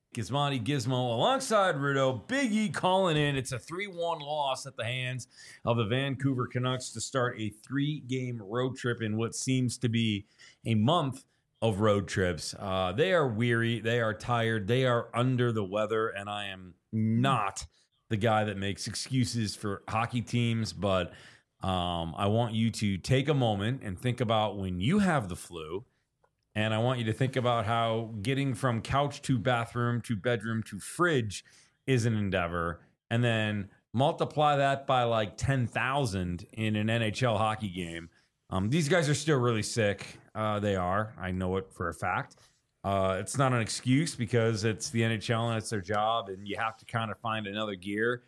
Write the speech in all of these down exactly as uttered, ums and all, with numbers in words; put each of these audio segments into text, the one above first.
Gizmondi Gizmo alongside Rudo. Big E calling in. It's a three one loss at the hands of the Vancouver Canucks to start a three-game road trip in what seems to be a month of road trips. Uh, they are weary. They are tired. They are under the weather, and I am not the guy that makes excuses for hockey teams, but um, I want you to take a moment and think about when you have the flu. And I want you to think about how getting from couch to bathroom to bedroom to fridge is an endeavor. And then multiply that by like ten thousand in an N H L hockey game. Um, these guys are still really sick. Uh, they are. I know it for a fact. Uh, it's not an excuse because it's the N H L and it's their job. And you have to kind of find another gear.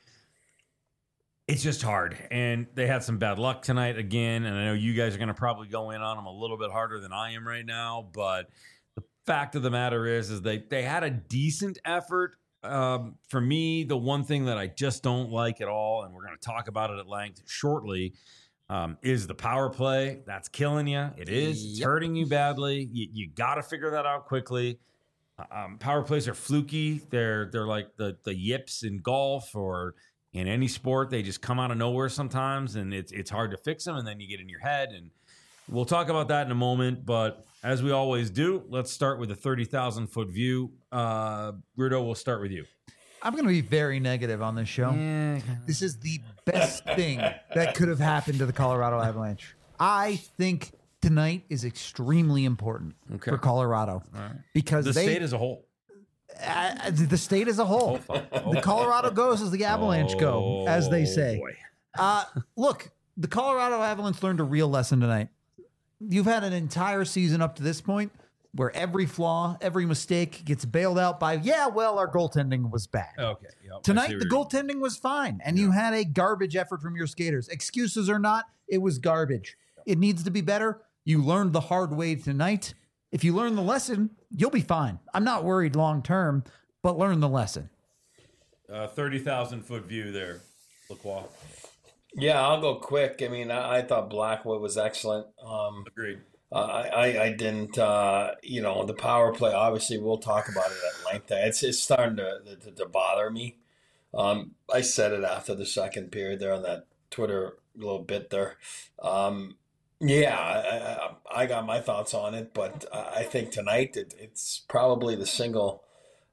It's just hard, and they had some bad luck tonight again, and I know you guys are going to probably go in on them a little bit harder than I am right now, but the fact of the matter is is they, they had a decent effort. Um, for me, the one thing that I just don't like at all, and we're going to talk about it at length shortly, um, is the power play. That's killing you. It is. It's Yep. hurting you badly. You, you got to figure that out quickly. Um, power plays are fluky. They're they're like the, the yips in golf or – in any sport, they just come out of nowhere sometimes, and it's it's hard to fix them, and then you get in your head. And we'll talk about that in a moment. But as we always do, let's start with a thirty thousand foot view. Uh, Rudo, we'll start with you. I'm going to be very negative on this show. Yeah. This is the best thing that could have happened to the Colorado Avalanche. I think tonight is extremely important Okay. for Colorado All right. because The they, state as a whole. uh, the state as a whole. Oh, The Colorado goes as the Avalanche go, as they say. boy. Uh, look, the Colorado Avalanche learned a real lesson tonight. You've had an entire season up to this point where every flaw, every mistake gets bailed out by, yeah, well, our goaltending was bad. Okay. Yep, I see Tonight, where the you're going. goaltending was fine, and you had a garbage effort from your skaters. Excuses or not, it was garbage. It needs to be better. You learned the hard way tonight. If you learn the lesson, you'll be fine. I'm not worried long term, but learn the lesson. Uh, thirty thousand foot view there, Lacroix. Yeah, I'll go quick. I mean, I, I thought Blackwood was excellent. Um, Agreed. uh, I, I, I didn't, uh, you know, the power play, obviously, we'll talk about it at length. It's, it's starting to, to, to bother me. Um, I said it after the second period there on that Twitter little bit there. Um, yeah, I, I, I got my thoughts on it, but I think tonight it, it's probably the single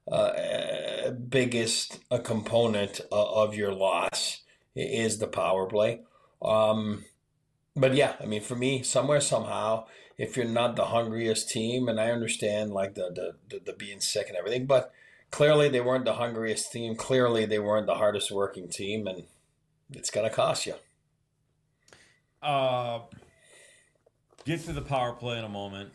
uh, biggest uh, component of your loss is the power play. Um, but yeah, I mean, for me, somewhere, somehow, if you're not the hungriest team, and I understand like the, the, the, the being sick and everything, but clearly they weren't the hungriest team. Clearly they weren't the hardest working team, and it's going to cost you. Uh, get to the power play in a moment.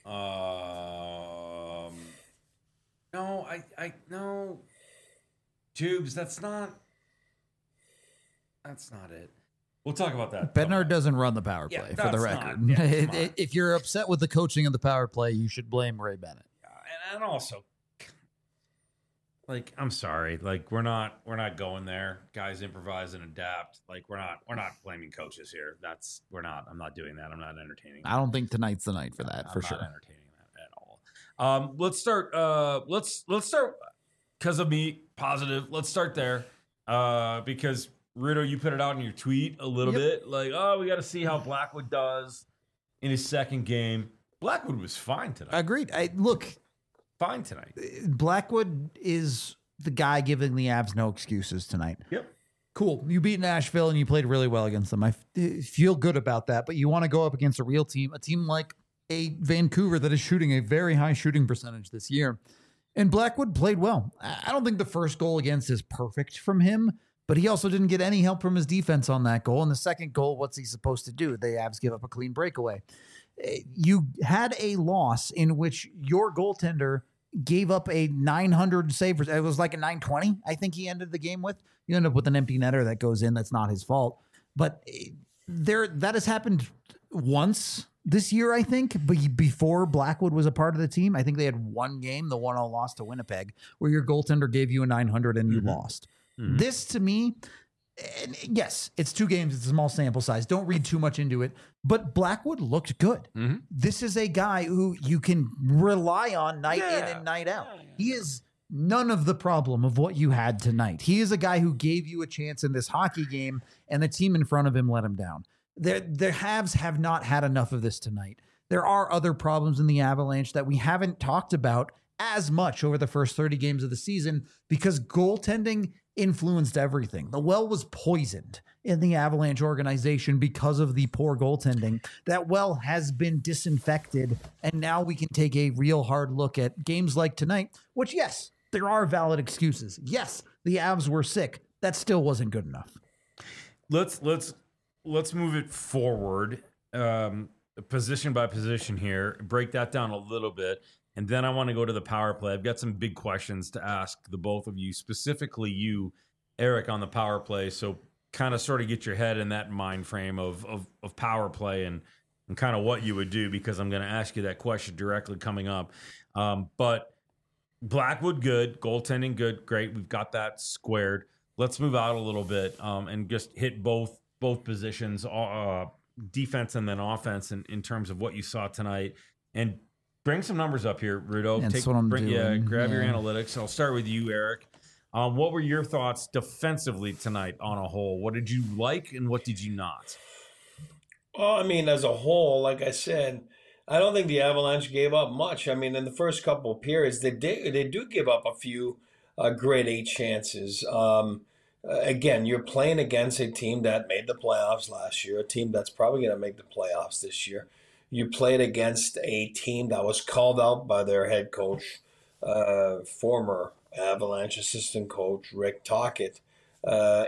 Um, no, I, I, no, Tubes. That's not. That's not it. We'll talk about that. Bednar doesn't run the power Yeah, play, for the that's record. not- yeah, It- come on. it- if you're upset with the coaching of the power play, you should blame Ray Bennett. and, and also, like, I'm sorry, like we're not we're not going there. Guys improvise and adapt. Like we're not we're not blaming coaches here. That's we're not. I'm not doing that. I'm not entertaining. I don't think tonight's the night for that, I'm for not sure. entertaining that at all. Um, let's start. Uh, let's let's start because of me. Positive. Let's start there. Uh, because Rudo, you put it out in your tweet a little Yep. bit, like, oh, we got to see how Blackwood does in his second game. Blackwood was fine tonight. Agreed. I, look, fine tonight. Blackwood is the guy giving the Avs no excuses tonight. Yep. Cool. You beat Nashville and you played really well against them. I f- feel good about that, but you want to go up against a real team, a team like a Vancouver that is shooting a very high shooting percentage this year. And Blackwood played well. I I don't think the first goal against is perfect from him, but he also didn't get any help from his defense on that goal. And the second goal, what's he supposed to do? The Avs give up a clean breakaway. Eh, You had a loss in which your goaltender gave up a nine hundred save. It was like a nine twenty, I think he ended the game with. You end up with an empty netter that goes in. That's not his fault. But eh, there, that has happened once this year, I think, but before Blackwood was a part of the team. I think they had one game, the one oh loss to Winnipeg, where your goaltender gave you a nine hundred and you Mhm. lost. Mhm. This, to me, and yes, it's two games. It's a small sample size. Don't read too much into it. But Blackwood looked good. Mhm. This is a guy who you can rely on night in Yeah. and night out. Yeah, yeah. He is none of the problem of what you had tonight. He is a guy who gave you a chance in this hockey game, and the team in front of him let him down. Their, their Habs have not had enough of this tonight. There are other problems in the Avalanche that we haven't talked about as much over the first thirty games of the season because goaltending influenced everything. The well was poisoned in the Avalanche organization because of the poor goaltending. That well has been disinfected, and now we can take a real hard look at games like tonight, which, yes, there are valid excuses. Yes, the Avs were sick. That still wasn't good enough. Let's let's let's move it forward, um, position by position here. Break that down a little bit. And then I want to go to the power play. I've got some big questions to ask the both of you, specifically you, Eric, on the power play. So kind of sort of get your head in that mind frame of of, of power play and, and kind of what you would do, because I'm going to ask you that question directly coming up. Um, but Blackwood, good. Goaltending, good. Great. We've got that squared. Let's move out a little bit um, and just hit both both positions, uh, defense and then offense in, in terms of what you saw tonight. And bring some numbers up here, Rudo. That's Take, what I'm bring, doing. Yeah, grab yeah. your analytics. I'll start with you, Eric. Um, what were your thoughts defensively tonight on a whole? What did you like and what did you not? Well, I mean, as a whole, like I said, I don't think the Avalanche gave up much. I mean, in the first couple of periods, they did, they do give up a few uh, grade eight chances. Um, again, you're playing against a team that made the playoffs last year, a team that's probably going to make the playoffs this year. You played against a team that was called out by their head coach, uh, former Avalanche assistant coach, Rick Tocchet, uh,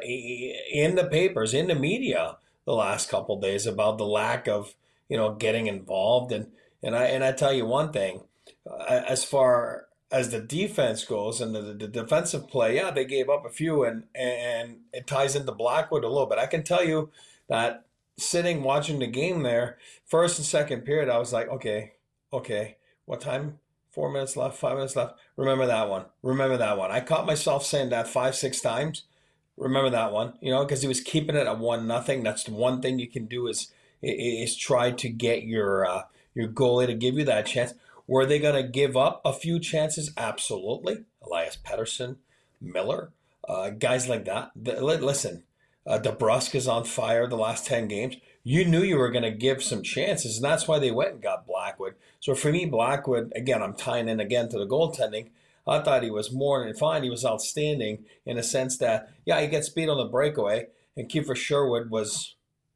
in the papers, in the media the last couple of days about the lack of, you know, getting involved. And, and, I, and I tell you one thing, uh, as far as the defense goes and the, the defensive play, yeah, they gave up a few, and, and it ties into Blackwood a little bit. I can tell you that sitting watching the game there, first and second period, I was like, okay, okay, what time? Four minutes left, five minutes left. Remember that one. Remember that one. I caught myself saying that five, six times. Remember that one, you know, because he was keeping it at one nothing. That's the one thing you can do is is try to get your uh, your goalie to give you that chance. Were they going to give up a few chances? Absolutely. Elias Pettersson, Miller, uh, guys like that. The, listen. Uh, DeBrusk is on fire the last ten games. You knew you were going to give some chances, and that's why they went and got Blackwood. So for me, Blackwood, again, I'm tying in again to the goaltending. I thought he was more than fine. He was outstanding in a sense that, yeah, he gets beat on the breakaway, and Kiefer Sherwood was,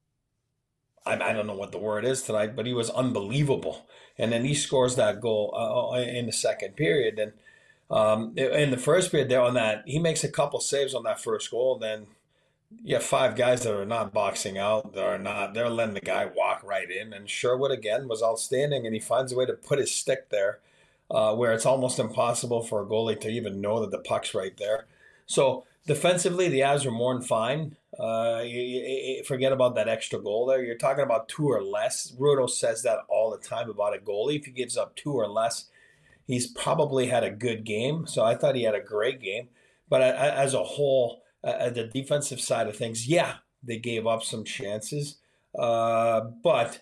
I, I don't know what the word is tonight, but he was unbelievable. And then he scores that goal uh, in the second period. And um, in the first period there on that, he makes a couple saves on that first goal, then you have five guys that are not boxing out. They're not. They're letting the guy walk right in. And Sherwood, again, was outstanding, and he finds a way to put his stick there uh, where it's almost impossible for a goalie to even know that the puck's right there. So defensively, the Avs are more than fine. Uh, you, you, forget about that extra goal there. You're talking about two or less. Rudo says that all the time about a goalie. If he gives up two or less, he's probably had a good game. So I thought he had a great game. But as a whole, Uh, the defensive side of things, yeah, they gave up some chances, uh, but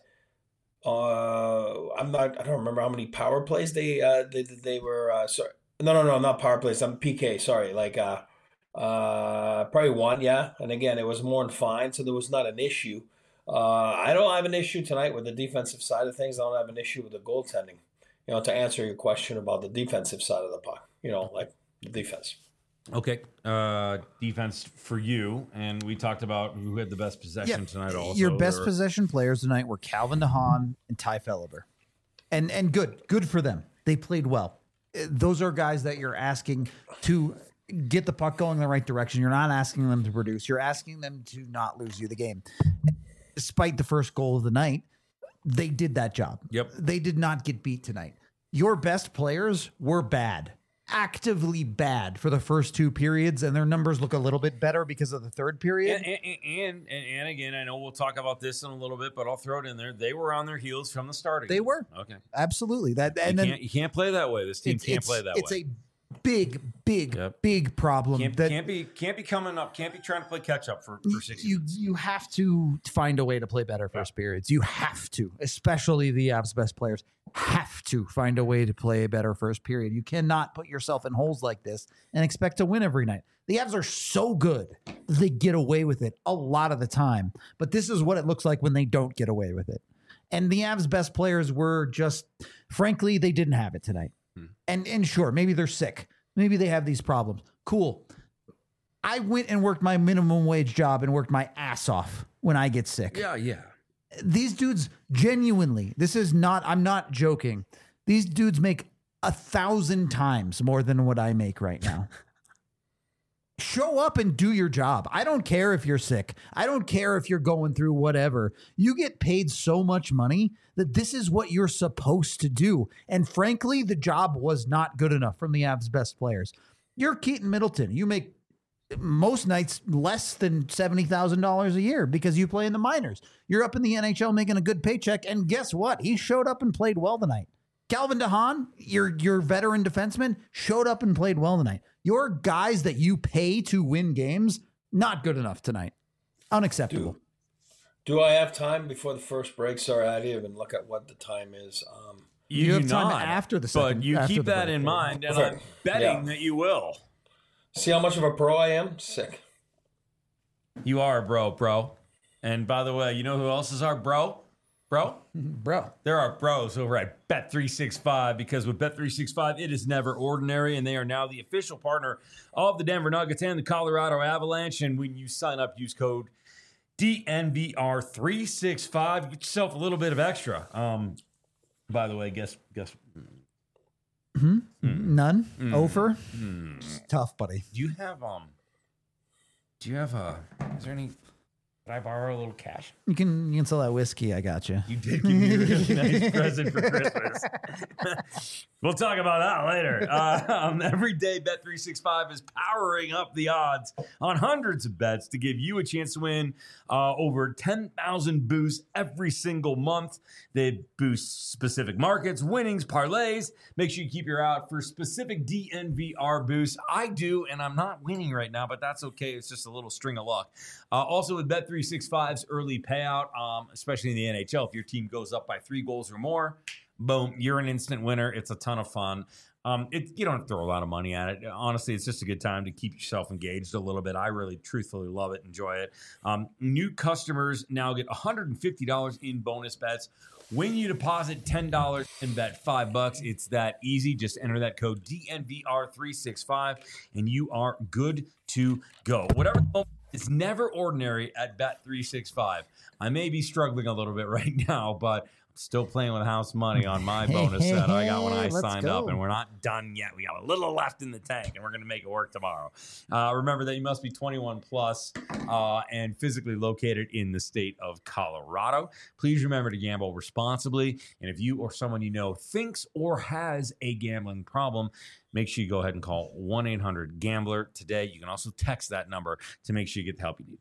uh, I'm not. I don't remember how many power plays they uh, they they were. Uh, sorry, no, no, no, not power plays. I'm P K. Sorry, like uh, uh, probably one. Yeah, and again, it was more than fine, so there was not an issue. Uh, I don't have an issue tonight with the defensive side of things. I don't have an issue with the goaltending. You know, to answer your question about the defensive side of the puck, you know, like the defense. Okay, uh, defense for you, and we talked about who had the best possession Yeah, tonight. Also, your best or, possession players tonight were Calvin DeHaan and Ty Felliber, and and good, good for them. They played well. Those are guys that you're asking to get the puck going in the right direction. You're not asking them to produce. You're asking them to not lose you the game. Despite the first goal of the night, they did that job. Yep, they did not get beat tonight. Your best players were bad. Actively bad for the first two periods, and their numbers look a little bit better because of the third period. And and, and and and again, I know we'll talk about this in a little bit, but I'll throw it in there. They were on their heels from the start. They were okay, absolutely that. And you then can't, you can't play that way. This team it's, can't it's, play that it's way. It's a big, big, Yep. big problem. Can't, that can't be can't be coming up. Can't be trying to play catch up for, for sixty you minutes. you have to find a way to play better first periods. You have to, especially the Avs best players have to find a way to play a better first period. You cannot put yourself in holes like this and expect to win every night. The Avs are so good that they get away with it a lot of the time. But this is what it looks like when they don't get away with it. And the Avs best players were just, frankly, they didn't have it tonight. Hmm. And and sure, maybe they're sick. Maybe they have these problems. Cool. I went and worked my minimum wage job and worked my ass off when I get sick. Yeah, yeah. These dudes genuinely, this is not, I'm not joking. These dudes make a thousand times more than what I make right now. Show up and do your job. I don't care if you're sick. I don't care if you're going through whatever. You get paid so much money that this is what you're supposed to do. And frankly, the job was not good enough from the Avs best players. You're Keaton Middleton. You make most nights less than seventy thousand dollars a year because you play in the minors. You're up in the N H L making a good paycheck. And guess what? He showed up and played well tonight. Calvin DeHaan, your, your veteran defenseman, showed up and played well tonight. Your guys that you pay to win games, not good enough tonight. Unacceptable. Do, do I have time before the first break? Sorry, I didn't even look at what the time is. Um, you, you have time not, after the second. But you keep that break. in mind, and I'm betting yeah. that you will. See how much of a pro I am? Sick. You are a bro, bro. And by the way, you know who else is our bro? Bro? Bro. There are bros over at Bet three sixty-five because with Bet three sixty-five, it is never ordinary, and they are now the official partner of the Denver Nuggets and the Colorado Avalanche. And when you sign up, use code D N V R three sixty-five. Get yourself a little bit of extra. Um, by the way, guess guess. Mm-hmm. Mm. None. Mm. Over. Mm. Tough, buddy. Do you have um? Do you have a? Is there any? Can I borrow a little cash? You can you can sell that whiskey. I got you. You did give me a really nice present for Christmas. We'll talk about that later. Uh, um, every day, Bet three sixty-five is powering up the odds on hundreds of bets to give you a chance to win uh, over ten thousand boosts every single month. They boost specific markets, winnings, parlays. Make sure you keep your eye out for specific D N V R boosts. I do, and I'm not winning right now, but that's okay. It's just a little string of luck. Uh, also, with Bet three sixty-five's early payout, um, especially in the N H L, if your team goes up by three goals or more, boom, you're an instant winner. It's a ton of fun. Um, it, you don't have to throw a lot of money at it. Honestly, it's just a good time to keep yourself engaged a little bit. I really, truthfully love it, enjoy it. Um, new customers now get one hundred fifty dollars in bonus bets when you deposit ten dollars and bet five bucks. It's that easy. Just enter that code D N V R three sixty-five, and you are good to go. Whatever the moment, it's never ordinary at Bet three sixty-five. I may be struggling a little bit right now, but I'm still playing with house money on my bonus set I got when I Let's signed go. up, and we're not done yet. We got a little left in the tank, and we're going to make it work tomorrow. Uh, remember that you must be twenty-one plus uh, and physically located in the state of Colorado. Please remember to gamble responsibly, and if you or someone you know thinks or has a gambling problem, make sure you go ahead and call one eight hundred gambler today. You can also text that number to make sure you get the help you need.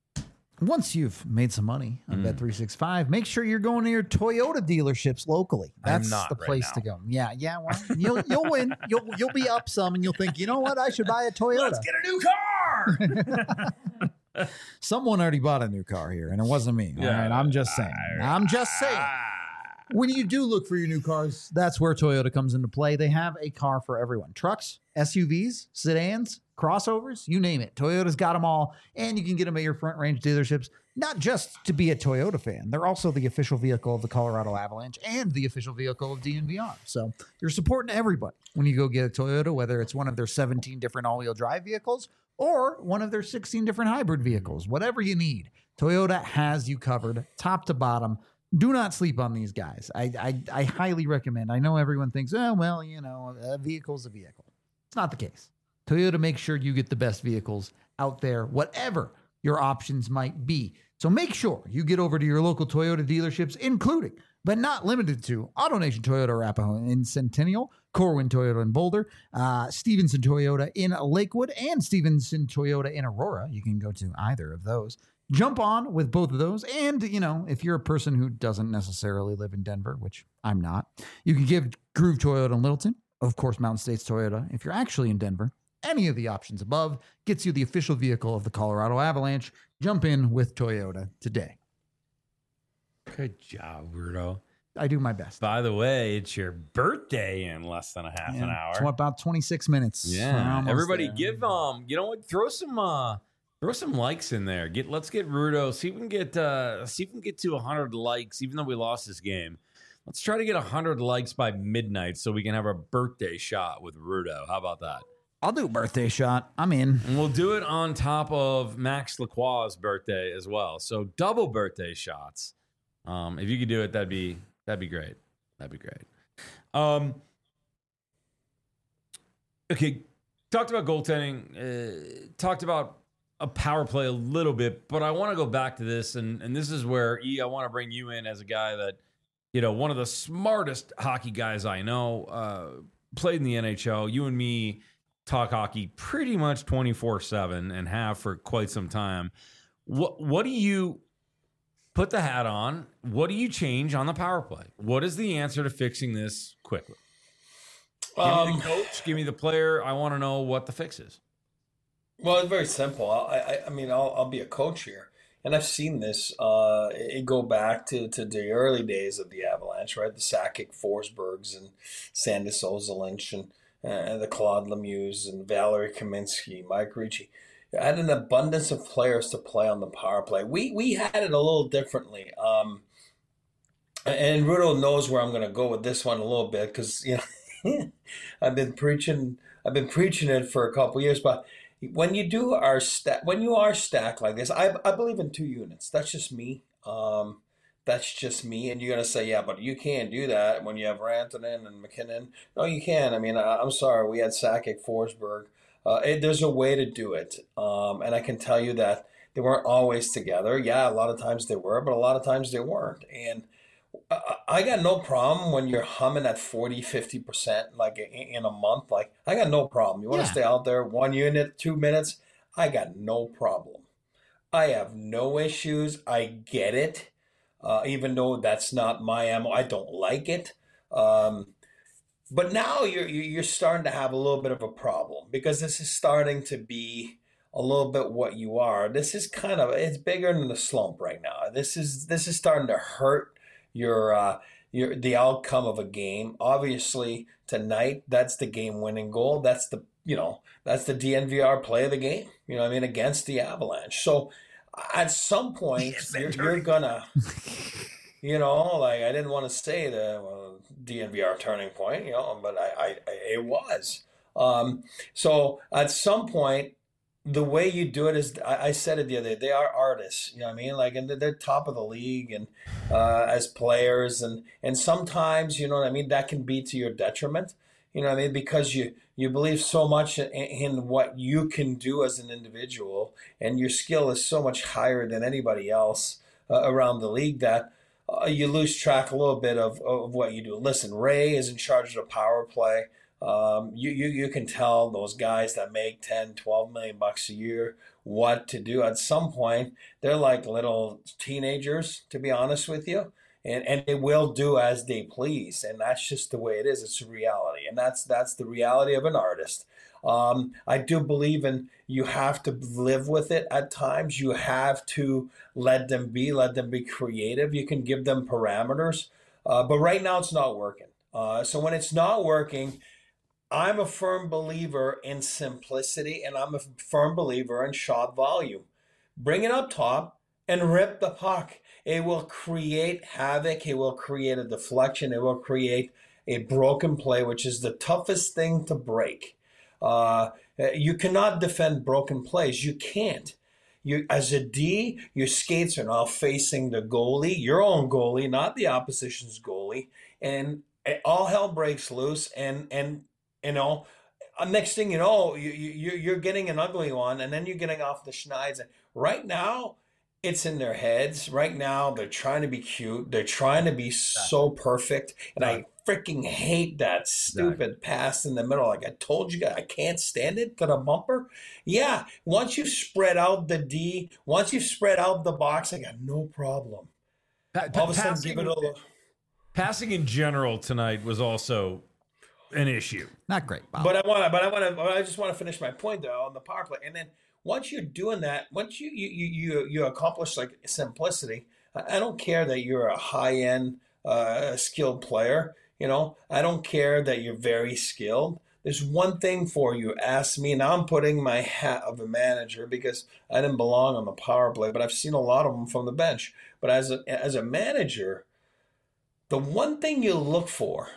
Once you've made some money on Mm. Bet three sixty-five, make sure you're going to your Toyota dealerships locally. I'm That's not the right place now. to go. Yeah, yeah. Well, you'll you'll win. You'll you'll be up some, and you'll think, you know what? I should buy a Toyota. Let's get a new car. Someone already bought a new car here, and it wasn't me. All right, I'm just saying. I'm just saying. When you do look for your new cars, that's where Toyota comes into play. They have a car for everyone. Trucks, S U Vs, sedans, crossovers, you name it. Toyota's got them all, and you can get them at your Front Range dealerships, not just to be a Toyota fan. They're also the official vehicle of the Colorado Avalanche and the official vehicle of D N V R. So you're supporting everybody when you go get a Toyota, whether it's one of their seventeen different all-wheel drive vehicles or one of their sixteen different hybrid vehicles. Whatever you need, Toyota has you covered top to bottom. Do not sleep on these guys. I, I I highly recommend. I know everyone thinks, oh, well, you know, a vehicle's a vehicle. It's not the case. Toyota makes sure you get the best vehicles out there, whatever your options might be. So make sure you get over to your local Toyota dealerships, including, but not limited to, AutoNation Toyota Arapahoe in Centennial, Corwin Toyota in Boulder, uh, Stevenson Toyota in Lakewood, and Stevenson Toyota in Aurora. You can go to either of those. Jump on with both of those. And, you know, if you're a person who doesn't necessarily live in Denver, which I'm not, you can give Groove Toyota in Littleton of course, Mountain States Toyota. If you're actually in Denver, any of the options above gets you the official vehicle of the Colorado Avalanche. Jump in with Toyota today. Good job, Rudo. I do my best. By the way, it's your birthday in less than a half Yeah, an hour. It's about twenty-six minutes. Yeah, everybody there. give um, you know what? Throw some uh, throw some likes in there. Get let's get Rudo. See if we can get uh, see if we can get to a hundred likes. Even though we lost this game, let's try to get a hundred likes by midnight so we can have a birthday shot with Rudo. How about that? I'll do a birthday shot. I'm in. And we'll do it on top of Max Lacroix's birthday as well. So double birthday shots. Um, if you could do it, that'd be that'd be great. That'd be great. Um, okay, talked about goaltending. Uh, talked about a power play a little bit, but I want to go back to this, and and this is where E, I want to bring you in as a guy that, you know, one of the smartest hockey guys I know. Uh, played in the N H L. You and me talk hockey pretty much twenty-four seven and have for quite some time. What what do you put the hat on? What do you change on the power play? What is the answer to fixing this quickly? Give Um, me the coach, give me the player. I want to know what the fix is. Well, it's very simple. I, I, I mean, I'll, I'll be a coach here, and I've seen this. Uh, it go back to, to the early days of the Avalanche, right? The Sakic, Forsbergs, and Sandis Ozolinsh, and uh, the Claude Lemieux, and Valerie Kaminsky, Mike Ricci. I had an abundance of players to play on the power play. We we had it a little differently. Um, and Rudo knows where I'm going to go with this one a little bit because you know I've been preaching I've been preaching it for a couple of years. But when you do our stack, when you are stacked like this, I I believe in two units. That's just me. Um, that's just me. And you're going to say, yeah, but you can't do that when you have Rantanen and McKinnon. No, you can. I mean, I, I'm sorry. We had Sakic, Forsberg. Uh, it, there's a way to do it. Um, and I can tell you that they weren't always together. Yeah, a lot of times they were, but a lot of times they weren't. And I, I got no problem when you're humming at forty, fifty percent like in, in a month. Like, I got no problem. You want to Yeah. stay out there one unit, two minutes? I got no problem. I have no issues. I get it. Uh, even though that's not my M O, I don't like it. Um, But now you're you're starting to have a little bit of a problem because this is starting to be a little bit what you are. This is kind of it's bigger than the slump right now. This is this is starting to hurt your uh, your the outcome of a game. Obviously tonight, that's the game winning goal. That's the you know that's the D N V R play of the game. You know what I mean, against the Avalanche. So at some point you're, you're gonna. You know, like I didn't want to say the well, D N V R turning point, you know, but I, I, I it was. Um, so at some point, the way you do it is, I, I said it the other day, they are artists, you know what I mean? Like, and they're top of the league and uh, as players, and and sometimes, you know what I mean, that can be to your detriment, you know what I mean, because you you believe so much in, in what you can do as an individual, and your skill is so much higher than anybody else uh, around the league that. Uh, you lose track a little bit of, of what you do. Listen, Ray is in charge of the power play. Um, you, you you can tell those guys that make ten, twelve million bucks a year what to do. At some point, they're like little teenagers, to be honest with you. And and they will do as they please. And that's just the way it is. It's a reality. And that's that's the reality of an artist. Um, I do believe in you have to live with it at times. You have to let them be, let them be creative. You can give them parameters. Uh, but right now it's not working. Uh, so when it's not working, I'm a firm believer in simplicity, and I'm a firm believer in shot volume. Bring it up top and rip the puck. It will create havoc. It will create a deflection. It will create a broken play, which is the toughest thing to break. Uh, you cannot defend broken plays. You can't. You, as a D, your skates are now facing the goalie, your own goalie, not the opposition's goalie, and all hell breaks loose. And and you know, next thing you know, you, you you're getting an ugly one, and then you're getting off the schneid. Right now, it's in their heads. Right now, they're trying to be cute. They're trying to be so perfect, and I freaking hate that stupid exactly. pass in the middle. Like I told you guys, I can't stand it to the bumper. Yeah, once you've spread out the D, once you've spread out the box, I got no problem. Pa- All of a sudden, give it a passing in general tonight was also an issue. Not great, Bob. But I want to. But I want to. I just want to finish my point though on the power play. And then once you're doing that, once you you you you, you accomplish like simplicity, I, I don't care that you're a high end uh, skilled player. You know, I don't care that you're very skilled. There's one thing for you. Ask me. Now I'm putting my hat of a manager because I didn't belong on the power play, but I've seen a lot of them from the bench. But as a, as a manager, the one thing you look for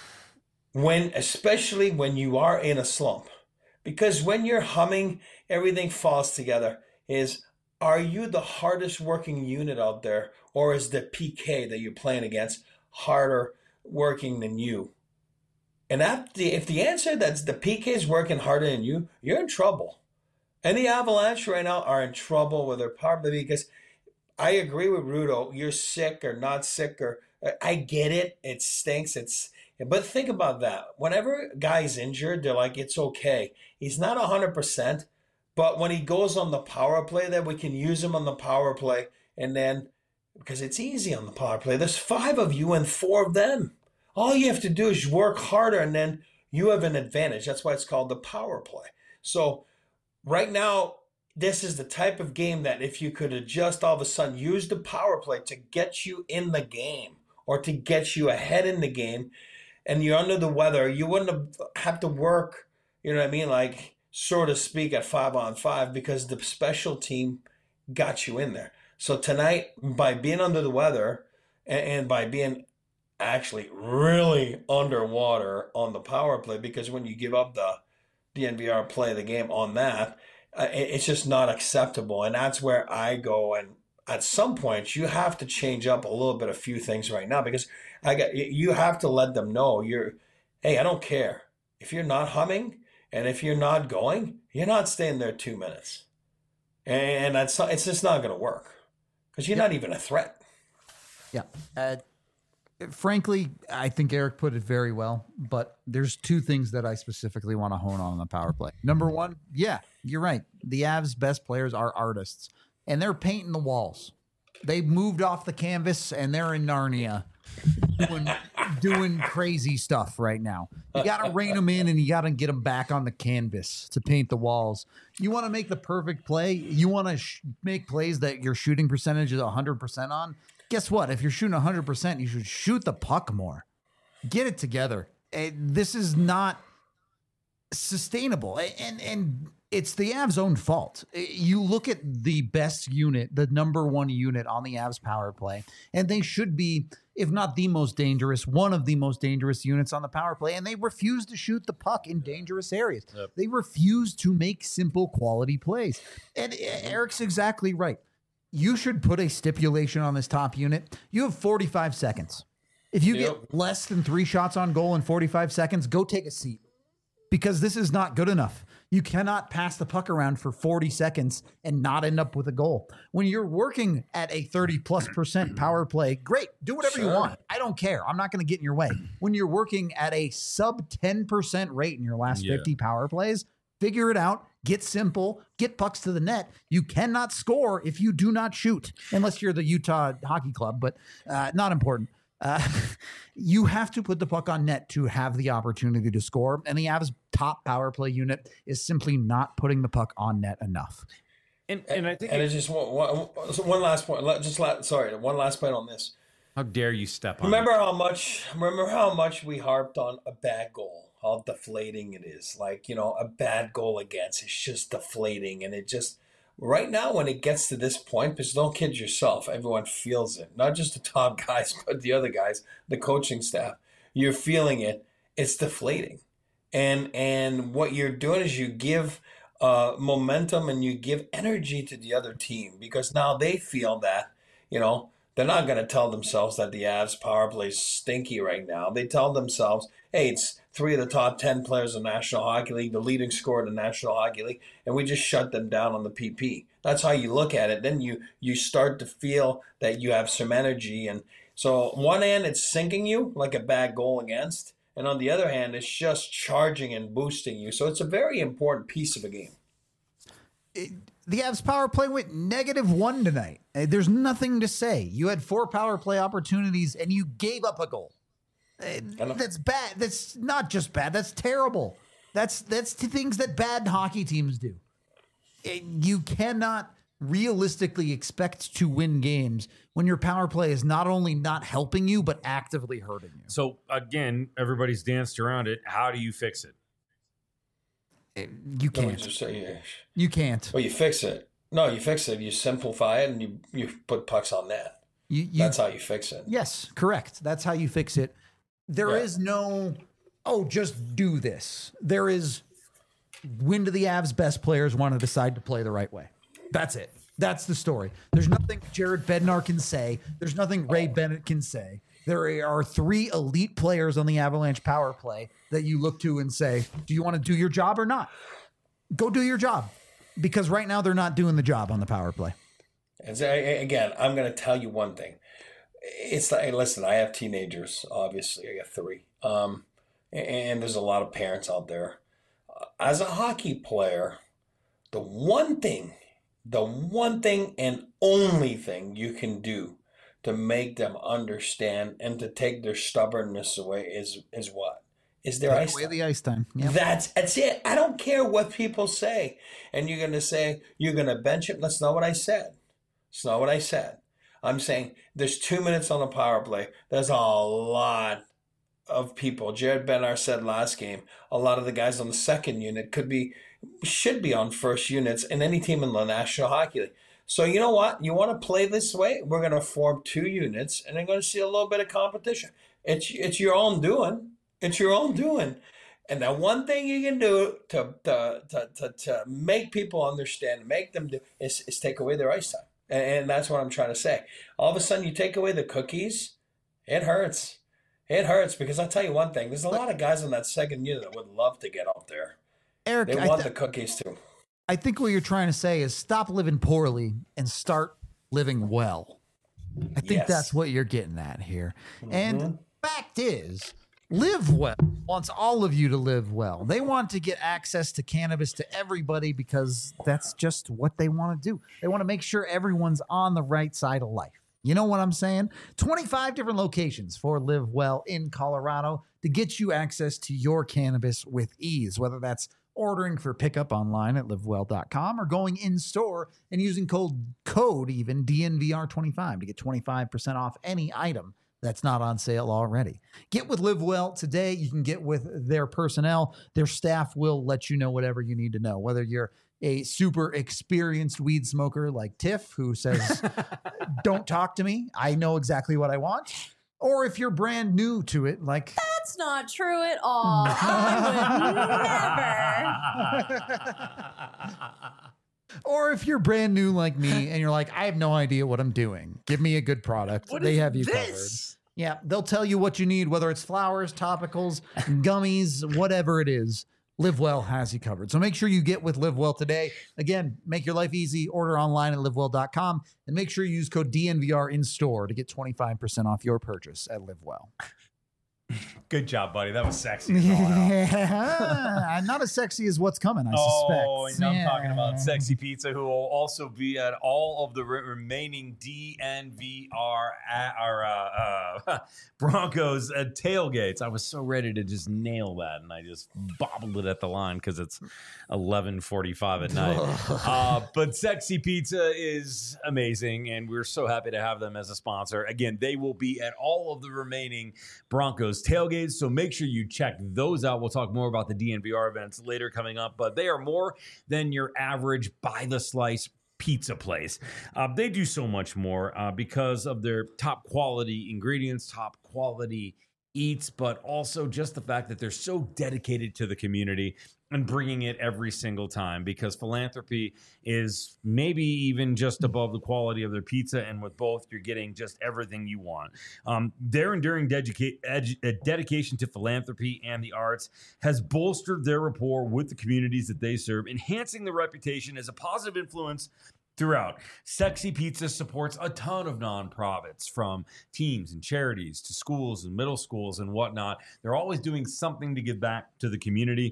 when, especially when you are in a slump, because when you're humming, everything falls together, is are you the hardest working unit out there, or is the P K that you're playing against harder working than you? And if the, if the answer that's the P K is working harder than you, you're in trouble. And the Avalanche right now are in trouble with their power play because I agree with Rudo. You're sick or not sick, or I get it. It stinks. It's but think about that. Whenever a guy's injured, they're like, it's okay. He's not one hundred percent, but when he goes on the power play, then we can use him on the power play. And then, because it's easy on the power play, there's five of you and four of them. All you have to do is work harder, and then you have an advantage. That's why it's called the power play. So right now, this is the type of game that if you could adjust all of a sudden, use the power play to get you in the game or to get you ahead in the game, and you're under the weather, you wouldn't have, have to work, you know what I mean, like, so to speak, at five on five because the special team got you in there. So tonight, by being under the weather and, and by being actually really underwater on the power play, because when you give up the D N V R play of the game on that, uh, it, it's just not acceptable. And that's where I go. And at some point, you have to change up a little bit, a few things right now, because I got you have to let them know you're, hey, I don't care if you're not humming and if you're not going, you're not staying there two minutes, and that's not, it's just not going to work because you're yeah. not even a threat. Yeah. Uh, Frankly, I think Eric put it very well, but there's two things that I specifically want to hone on in the power play. Number one, yeah, you're right. The Avs' best players are artists, and they're painting the walls. They moved off the canvas, and they're in Narnia doing, doing crazy stuff right now. You got to rein them in, and you got to get them back on the canvas to paint the walls. You want to make the perfect play. You want to sh- make plays that your shooting percentage is one hundred percent on. Guess what? If you're shooting one hundred percent, you should shoot the puck more. Get it together. This is not sustainable. And and it's the Avs' own fault. You look at the best unit, the number one unit on the Avs power play, and they should be, if not the most dangerous, one of the most dangerous units on the power play, and they refuse to shoot the puck in dangerous areas. Yep. They refuse to make simple quality plays. And Eric's exactly right. You should put a stipulation on this top unit. You have forty-five seconds. If you yep. get less than three shots on goal in forty-five seconds, go take a seat, because this is not good enough. You cannot pass the puck around for forty seconds and not end up with a goal. When you're working at a thirty plus percent power play, great. Do whatever sure. you want. I don't care. I'm not going to get in your way. When you're working at a sub ten percent rate in your last yeah. fifty power plays, figure it out. Get simple, get pucks to the net. You cannot score if you do not shoot, unless you're the Utah Hockey Club, but uh, not important. Uh, you have to put the puck on net to have the opportunity to score, and the Avs' top power play unit is simply not putting the puck on net enough. And and I think and it, it's just one, one, one last point. Just la- sorry, one last point on this. How dare you step on? Remember it. how much? Remember how much we harped on a bad goal. How deflating it is. Like, you know, a bad goal against, it's just deflating. And it just, right now when it gets to this point, because don't kid yourself, everyone feels it. Not just the top guys, but the other guys, the coaching staff. You're feeling it. It's deflating. And and what you're doing is you give uh, momentum and you give energy to the other team, because now they feel that, you know, they're not going to tell themselves that the Avs power play is stinky right now. They tell themselves, hey, it's three of the top ten players in the National Hockey League, the leading scorer in the National Hockey League, and we just shut them down on the P P. That's how you look at it. Then you you start to feel that you have some energy. And so on one hand, it's sinking you like a bad goal against, and on the other hand, it's just charging and boosting you. So it's a very important piece of a game. It, the Avs power play went negative one tonight. There's nothing to say. You had four power play opportunities, and you gave up a goal. That's bad. That's not just bad. That's terrible. That's that's the things that bad hockey teams do. You cannot realistically expect to win games when your power play is not only not helping you, but actively hurting you. So again, everybody's danced around it. How do you fix it? You can't. Just say, you can't. Well, you fix it. No, you fix it. You simplify it and you, you put pucks on net. You, you, That's how you fix it. Yes, correct. That's how you fix it. There yeah. is no, oh, just do this. There is, when do the Avs best players want to decide to play the right way? That's it. That's the story. There's nothing Jared Bednar can say. There's nothing Ray Bennett can say. There are three elite players on the Avalanche power play that you look to and say, do you want to do your job or not? Go do your job. Because right now they're not doing the job on the power play. And so, again, I'm going to tell you one thing. It's like, listen, I have teenagers, obviously. I got three. Um, and there's a lot of parents out there. As a hockey player, the one thing, the one thing and only thing you can do to make them understand and to take their stubbornness away is is what? Is their ice time. The ice time. Yep. That's that's it. I don't care what people say. And you're going to say, you're going to bench him. That's not what I said. It's not what I said. I'm saying there's two minutes on the power play. There's a lot of people. Jared Bednar said last game, a lot of the guys on the second unit could be, should be on first units in any team in the National Hockey League. So you know what? You want to play this way? We're going to form two units, and they're going to see a little bit of competition. It's it's your own doing. It's your own doing. And the one thing you can do to to to, to, to make people understand, make them do, is, is take away their ice time. And, and that's what I'm trying to say. All of a sudden, you take away the cookies, it hurts. It hurts because I'll tell you one thing. There's a lot of guys on that second unit that would love to get up there. Eric, they I want th- the cookies too. I think what you're trying to say is stop living poorly and start living well. I think Yes. that's what you're getting at here. Mm-hmm. And fact is, Live Well wants all of you to live well. They want to get access to cannabis to everybody because that's just what they want to do. They want to make sure everyone's on the right side of life. You know what I'm saying? twenty-five different locations for Live Well in Colorado to get you access to your cannabis with ease, whether that's ordering for pickup online at live well dot com or going in store and using code code even D N V R twenty-five to get twenty-five percent off any item that's not on sale already. Get with Live Well today. You can get with their personnel. Their staff will let you know whatever you need to know, whether you're a super experienced weed smoker like Tiff, who says, don't talk to me, I know exactly what I want. Or if you're brand new to it, like... That's not true at all. I would never. Or if you're brand new like me and you're like, I have no idea what I'm doing. Give me a good product. What they is have you this? covered. Yeah, they'll tell you what you need, whether it's flowers, topicals, gummies, whatever it is. Live Well has you covered. So make sure you get with Live Well today. Again, make your life easy. Order online at live well dot com and make sure you use code D N V R in store to get twenty-five percent off your purchase at Live Well. Good job, buddy. That was sexy. as all hell. Yeah, not as sexy as what's coming, I suspect. Oh, and I'm Yeah. talking about Sexy Pizza, who will also be at all of the re- remaining D N V R at our uh, uh, Broncos uh, tailgates. I was so ready to just nail that, and I just bobbled it at the line because it's eleven forty-five at night. uh, but Sexy Pizza is amazing, and we're so happy to have them as a sponsor. Again, they will be at all of the remaining Broncos tailgates, so make sure you check those out. We'll talk more about the D N V R events later coming up, but they are more than your average by the slice pizza place. Uh, they do so much more uh, because of their top quality ingredients, top quality eats, but also just the fact that they're so dedicated to the community and bringing it every single time, because philanthropy is maybe even just above the quality of their pizza, and with both, you're getting just everything you want. Um, their enduring dedica- edu- uh, dedication to philanthropy and the arts has bolstered their rapport with the communities that they serve, enhancing their reputation as a positive influence throughout. Sexy Pizza supports a ton of nonprofits, from teams and charities to schools and middle schools and whatnot. They're always doing something to give back to the community.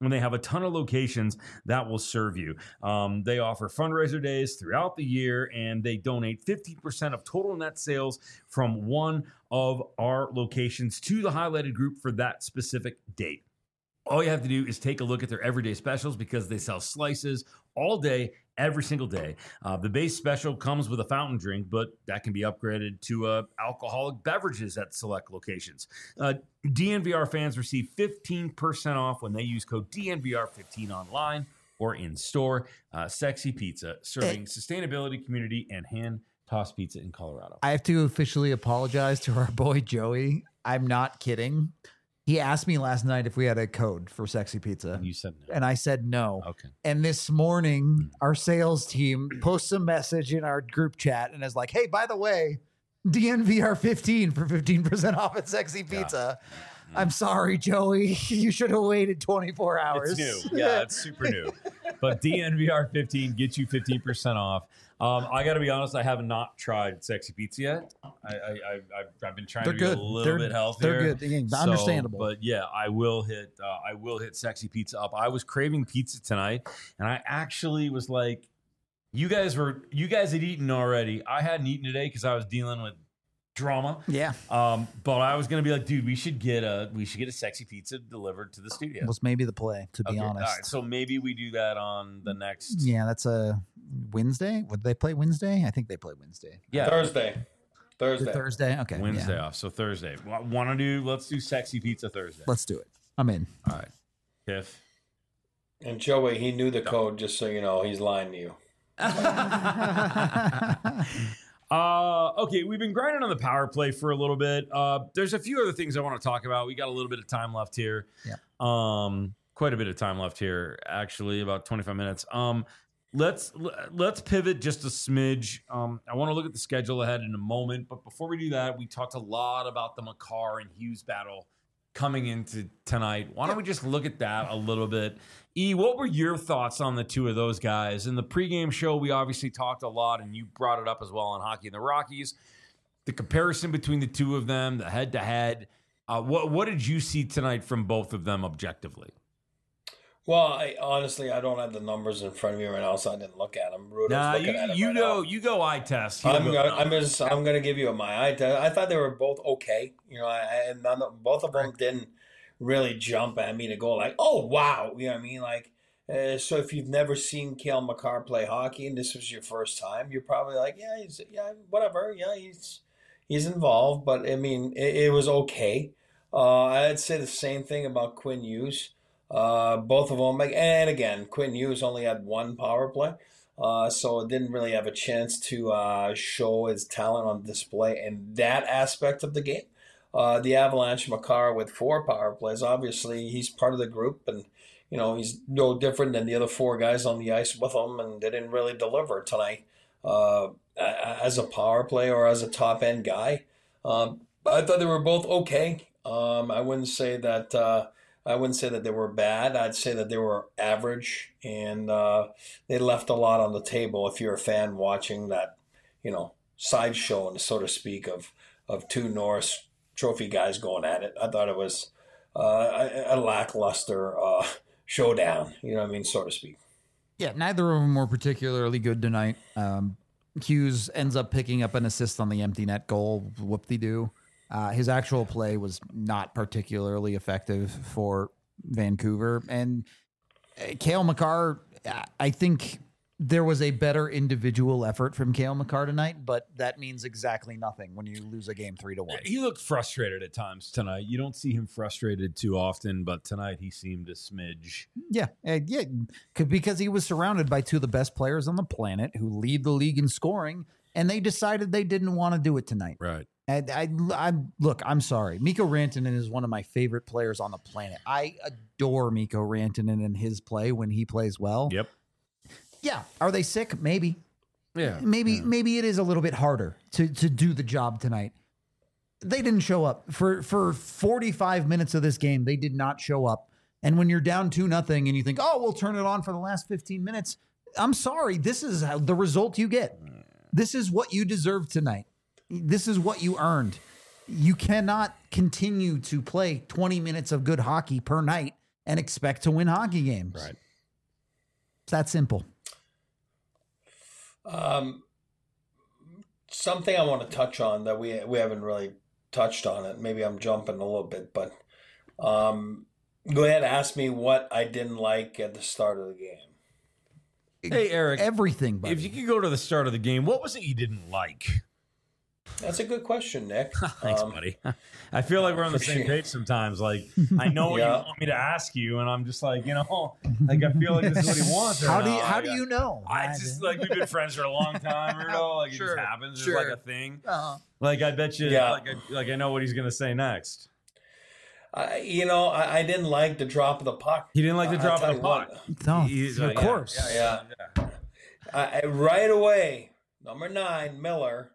when they have a ton of locations that will serve you. Um, they offer fundraiser days throughout the year, and they donate fifteen percent of total net sales from one of our locations to the highlighted group for that specific date. All you have to do is take a look at their everyday specials because they sell slices all day, every single day. Uh, the base special comes with a fountain drink, but that can be upgraded to uh, alcoholic beverages at select locations. Uh, D N V R fans receive fifteen percent off when they use code D N V R fifteen online or in store. Uh, Sexy Pizza, serving Hey. sustainability, community, and hand-tossed pizza in Colorado. I have to officially apologize to our boy Joey. I'm not kidding. He asked me last night if we had a code for Sexy Pizza. You said no. And I said no. Okay. And this morning, our sales team posts a message in our group chat and is like, hey, by the way, D N V R fifteen for fifteen percent off at Sexy Pizza. I'm sorry, Joey. You should have waited twenty-four hours. It's new. Yeah, it's super new. But D N V R fifteen gets you fifteen percent off. Um, I got to be honest, I have not tried Sexy Pizza yet. I, I, I, I've, I've been trying They're to be good. a little They're- bit healthier. they're good. Yeah, So, understandable. But yeah, I will hit. Uh, I will hit Sexy Pizza up. I was craving pizza tonight, and I actually was like, "You guys were. You guys had eaten already. I hadn't eaten today because I was dealing with drama. Yeah. Um, but I was gonna be like, dude, we should get a we should get a Sexy Pizza delivered to the studio. Was maybe the play, to be Okay, honest. all right, so maybe we do that on the next. Yeah, that's a Wednesday. Would they play Wednesday? I think they play Wednesday. Yeah, Thursday. Is Thursday. it Thursday? Okay. Wednesday yeah. off. So Thursday. Want to do? Let's do Sexy Pizza Thursday. Let's do it. I'm in. All right, Tiff. And Joey, he knew the code, just so you know. He's lying to you. Uh, okay, we've been grinding on the power play for a little bit. Uh, there's a few other things I want to talk about. We got a little bit of time left here. Yeah. Um, quite a bit of time left here, actually, about twenty-five minutes. Um, let's let's pivot just a smidge. Um, I want to look at the schedule ahead in a moment, but before we do that, we talked a lot about the Makar and Hughes battle coming into tonight. Why don't we just look at that a little bit? E, what were your thoughts on the two of those guys? In the pregame show, we obviously talked a lot, and you brought it up as well on Hockey and the Rockies. The comparison between the two of them, the head-to-head. Uh, what what did you see tonight from both of them objectively? Well, I, honestly, I don't have the numbers in front of me right now, so I didn't look at them. Rudo's Nah, looking you, at them you right go now. you go eye test. He'll I'm go gonna, numbers. I'm just I'm gonna give you my eye test. I thought they were both okay. You know, I, and none of, both of them didn't really jump at me to go like, oh wow, you know what I mean? Like, uh, so if you've never seen Cale Makar play hockey and this was your first time, you're probably like, yeah, he's yeah, whatever, yeah, he's he's involved. But I mean, it, it was okay. Uh, I'd say the same thing about Quinn Hughes. Uh, both of them, like, and again, Quinn Hughes only had one power play. Uh, so it didn't really have a chance to uh, show his talent on display in that aspect of the game. Uh, the Avalanche, Makar with four power plays, obviously he's part of the group, and you know he's no different than the other four guys on the ice with him, and they didn't really deliver tonight uh, as a power play or as a top end guy. Um, I thought they were both okay. Um, I wouldn't say that. Uh, I wouldn't say that they were bad. I'd say that they were average, and uh, they left a lot on the table. If you're a fan watching that, you know, sideshow, so to speak, of of two Norris Trophy guys going at it, I thought it was uh, a, a lackluster uh, showdown. You know what I mean, so to speak. Yeah, neither of them were particularly good tonight. Um, Hughes ends up picking up an assist on the empty net goal. Whoop-de-doo. Uh, his actual play was not particularly effective for Vancouver. And uh, Cale Makar, I think there was a better individual effort from Cale Makar tonight, but that means exactly nothing when you lose a game three to one. He looked frustrated at times tonight. You don't see him frustrated too often, but tonight he seemed a smidge. Yeah, uh, yeah, c- because he was surrounded by two of the best players on the planet who lead the league in scoring, and they decided they didn't want to do it tonight. Right. And I, I look, I'm sorry. Mikko Rantanen is one of my favorite players on the planet. I adore Mikko Rantanen and his play when he plays well. Yep. Yeah. Are they sick? Maybe. Yeah. Maybe Yeah. maybe it is a little bit harder to to do the job tonight. They didn't show up for for forty-five minutes of this game. They did not show up. And when you're down two nothing and you think, oh, we'll turn it on for the last fifteen minutes. I'm sorry. This is how, the result you get. This is what you deserve tonight. This is what you earned. You cannot continue to play twenty minutes of good hockey per night and expect to win hockey games. Right. It's that simple. Um, something I want to touch on that we we haven't really touched on it. Maybe I'm jumping a little bit, but um, go ahead and ask me what I didn't like at the start of the game. Hey, Eric. Everything, buddy. If you could go to the start of the game, what was it you didn't like? That's a good question, Nick. Thanks, Um, buddy. I feel like we're on the same appreciate- page sometimes. Like, I know what Yeah. you want me to ask you, and I'm just like, you know, like I feel like this is what he wants. right how do you, now. how Like, do you know? I just like we've been friends for a long time, Rudo. Like it Sure, just happens. sure. It's like a thing. Uh, Like I bet you, Yeah. like, I, like I know what he's gonna say next. I, you know, I, I didn't like the drop of the puck. He didn't like the I- drop I'll of the tell you puck. what. no, He's of like, yeah, course. yeah, yeah. I, I- right away, number nine, Miller.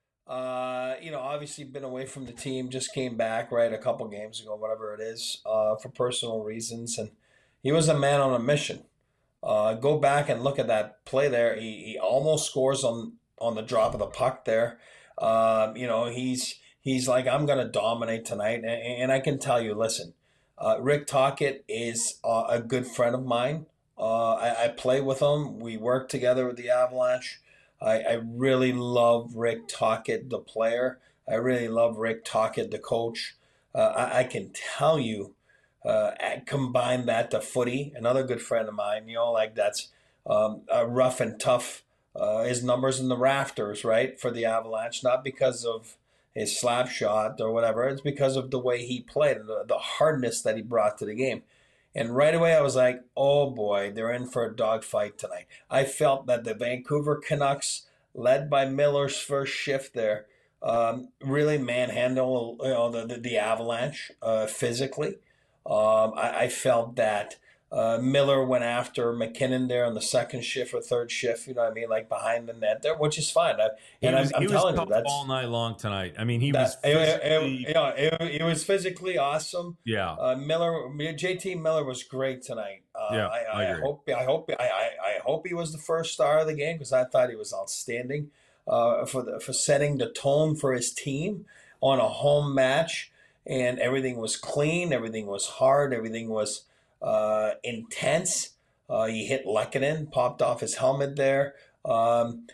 Uh, you know, obviously been away from the team, just came back right a couple games ago, whatever it is, uh, for personal reasons, and he was a man on a mission. Uh, go back and look at that play there. He, he almost scores on on the drop of the puck there. Um, you know, he's he's like, I'm going to dominate tonight, and, and I can tell you, listen, uh, Rick Tocchet is uh, a good friend of mine. Uh, I, I play with him. We work together with the Avalanche. I, I really love Rick Tocchet, the player. I really love Rick Tocchet, the coach. Uh, I, I can tell you, uh, combine that to footy, another good friend of mine, you know, like that's um, a rough and tough. Uh, his numbers in the rafters, right, for the Avalanche, not because of his slap shot or whatever. It's because of the way he played, the, the hardness that he brought to the game. And right away, I was like, oh boy, they're in for a dogfight tonight. I felt that the Vancouver Canucks, led by Miller's first shift there, um, really manhandle you know, the, the, the Avalanche uh, physically. Um, I, I felt that uh, Miller went after McKinnon there on the second shift or third shift, you know what I mean, like behind the net there, which is fine. I, He and was, I'm, I'm he was telling you, tough that's all night long tonight. I mean, he that, was it, it, physically, it, you know, it, it was physically awesome. yeah. Uh, Miller, J T Miller was great tonight. Uh, Yeah, I, I I, agree. hope, I hope, I, I, I hope he was the first star of the game because I thought he was outstanding uh, for the for setting the tone for his team on a home match, and everything was clean, everything was hard, everything was uh, intense. Uh, he hit Lehkonen, popped off his helmet there. Um,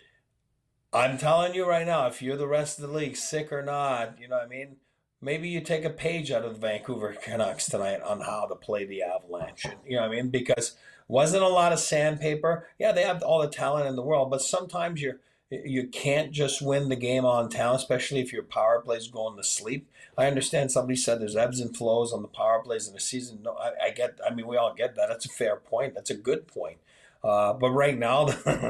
I'm telling you right now, if you're the rest of the league, sick or not, you know what I mean? Maybe you take a page out of the Vancouver Canucks tonight on how to play the Avalanche. You know what I mean? Because wasn't a lot of sandpaper. Yeah, they have all the talent in the world, but sometimes you're you can't just win the game on talent, especially if your power play's going to sleep. I understand somebody said there's ebbs and flows on the power plays in the season. No, I, I get. I mean, we all get that. That's a fair point. That's a good point. Uh, but right now,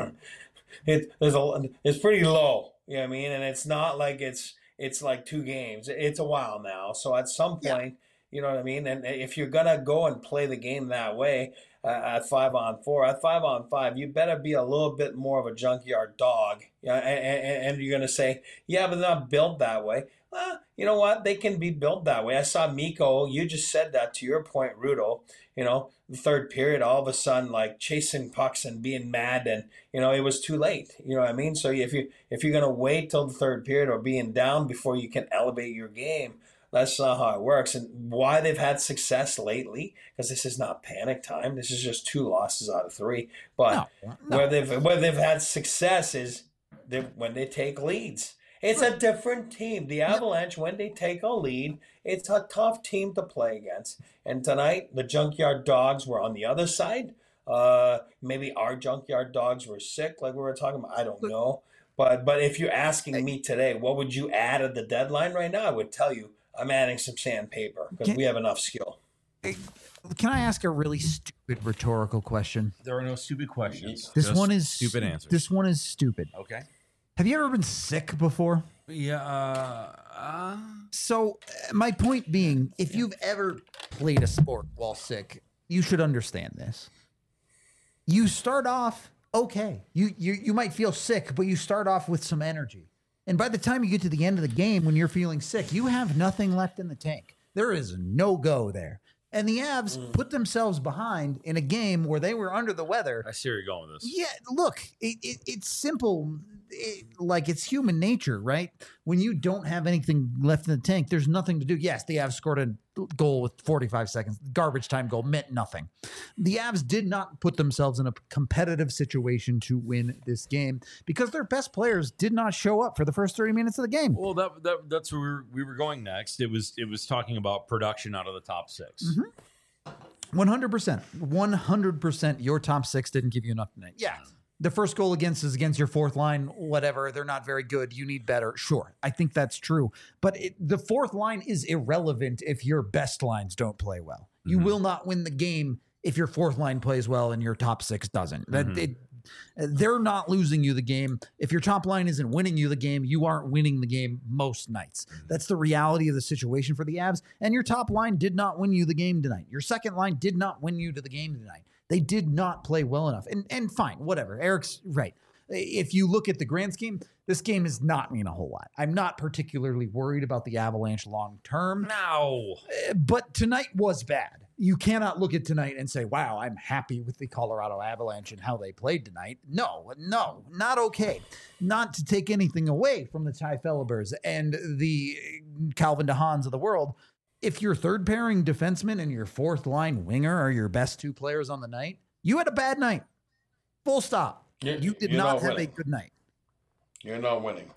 it there's a it's pretty low. You know what I mean? And it's not like it's it's like two games. It's a while now. So at some point, yeah. You know what I mean? And if you're gonna go and play the game that way, uh, at five on four, at five on five, you better be a little bit more of a junkyard dog. Yeah, and, and, and you're gonna say, yeah, but they're not built that way. Well, you know what? They can be built that way. I saw Mikko. You just said that to your point, Rudo. You know, the third period, all of a sudden, like chasing pucks and being mad, and you know it was too late. You know what I mean? So if you if you're gonna wait till the third period or being down before you can elevate your game, that's not how it works. And why they've had success lately, because this is not panic time. This is just two losses out of three. But No, no. where they've where they've had success is they, when they take leads. It's a different team. The Avalanche, when they take a lead, it's a tough team to play against. And tonight, the Junkyard Dogs were on the other side. Uh, maybe our Junkyard Dogs were sick, like we were talking about. I don't know. But but if you're asking me today, what would you add at the deadline right now? I would tell you I'm adding some sandpaper because Can- we have enough skill. Can I ask a really stupid rhetorical question? There are no stupid questions. This just one is stupid answers. This one is stupid. Okay. Have you ever been sick before? Yeah. Uh, uh, So uh, my point being, if you've ever played a sport while sick, you should understand this. You start off okay. You you you might feel sick, but you start off with some energy. And by the time you get to the end of the game when you're feeling sick, you have nothing left in the tank. There is no go there. And the Avs Mm. put themselves behind in a game where they were under the weather. I see where you're going with this. Yeah, look, it, it, it's simple. It, like it's human nature, right? When you don't have anything left in the tank, there's nothing to do. Yes, they have scored a goal with forty-five seconds, garbage time goal, meant nothing. The Avs did not put themselves in a competitive situation to win this game because their best players did not show up for the first thirty minutes of the game. Well, that, that that's where we were, we were going next. It was it was talking about production out of the top six. Mm-hmm. one hundred percent. one hundred percent your top six didn't give you enough tonight. Yeah. The first goal against is against your fourth line, whatever. They're not very good. You need better. Sure. I think that's true. But it, the fourth line is irrelevant if your best lines don't play well. You Mhm. will not win the game if your fourth line plays well and your top six doesn't. That Mhm. it, they're not losing you the game. If your top line isn't winning you the game, you aren't winning the game most nights. That's the reality of the situation for the Avs. And your top line did not win you the game tonight. Your second line did not win you to the game tonight. They did not play well enough. And and fine, whatever. Eric's right. If you look at the grand scheme, this game does not mean a whole lot. I'm not particularly worried about the Avalanche long term. No. But tonight was bad. You cannot look at tonight and say, wow, I'm happy with the Colorado Avalanche and how they played tonight. No, no, not okay. Not to take anything away from the Ty Felibers and the Calvin DeHaans of the world. If your third pairing defenseman and your fourth line winger are your best two players on the night, you had a bad night. Full stop. You're- You did you're not not have winning. a good night. You're not winning.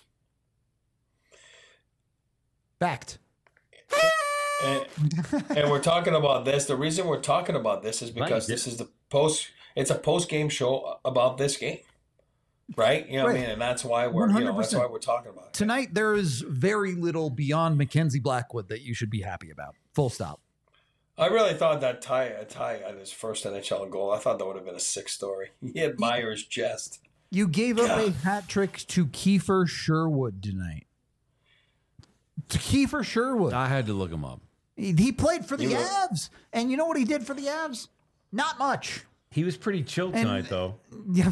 Fact. And, and we're talking about this. The reason we're talking about this is because Right. this is the post. It's a post game show about this game, right? You know what I Right. mean, and that's why we're you know, that's one hundred percent. why we're talking about it. Tonight, there is very little beyond Mackenzie Blackwood that you should be happy about. Full stop. I really thought that Ty Ty at his first N H L goal. I thought that would have been a sick story. He had Myers' chest. You gave up a God. hat trick to Kiefer Sherwood tonight. To Kiefer Sherwood. I had to look him up. He he played for the You were- Avs. And you know what he did for the Avs? Not much. He was pretty chill tonight, though. Yeah.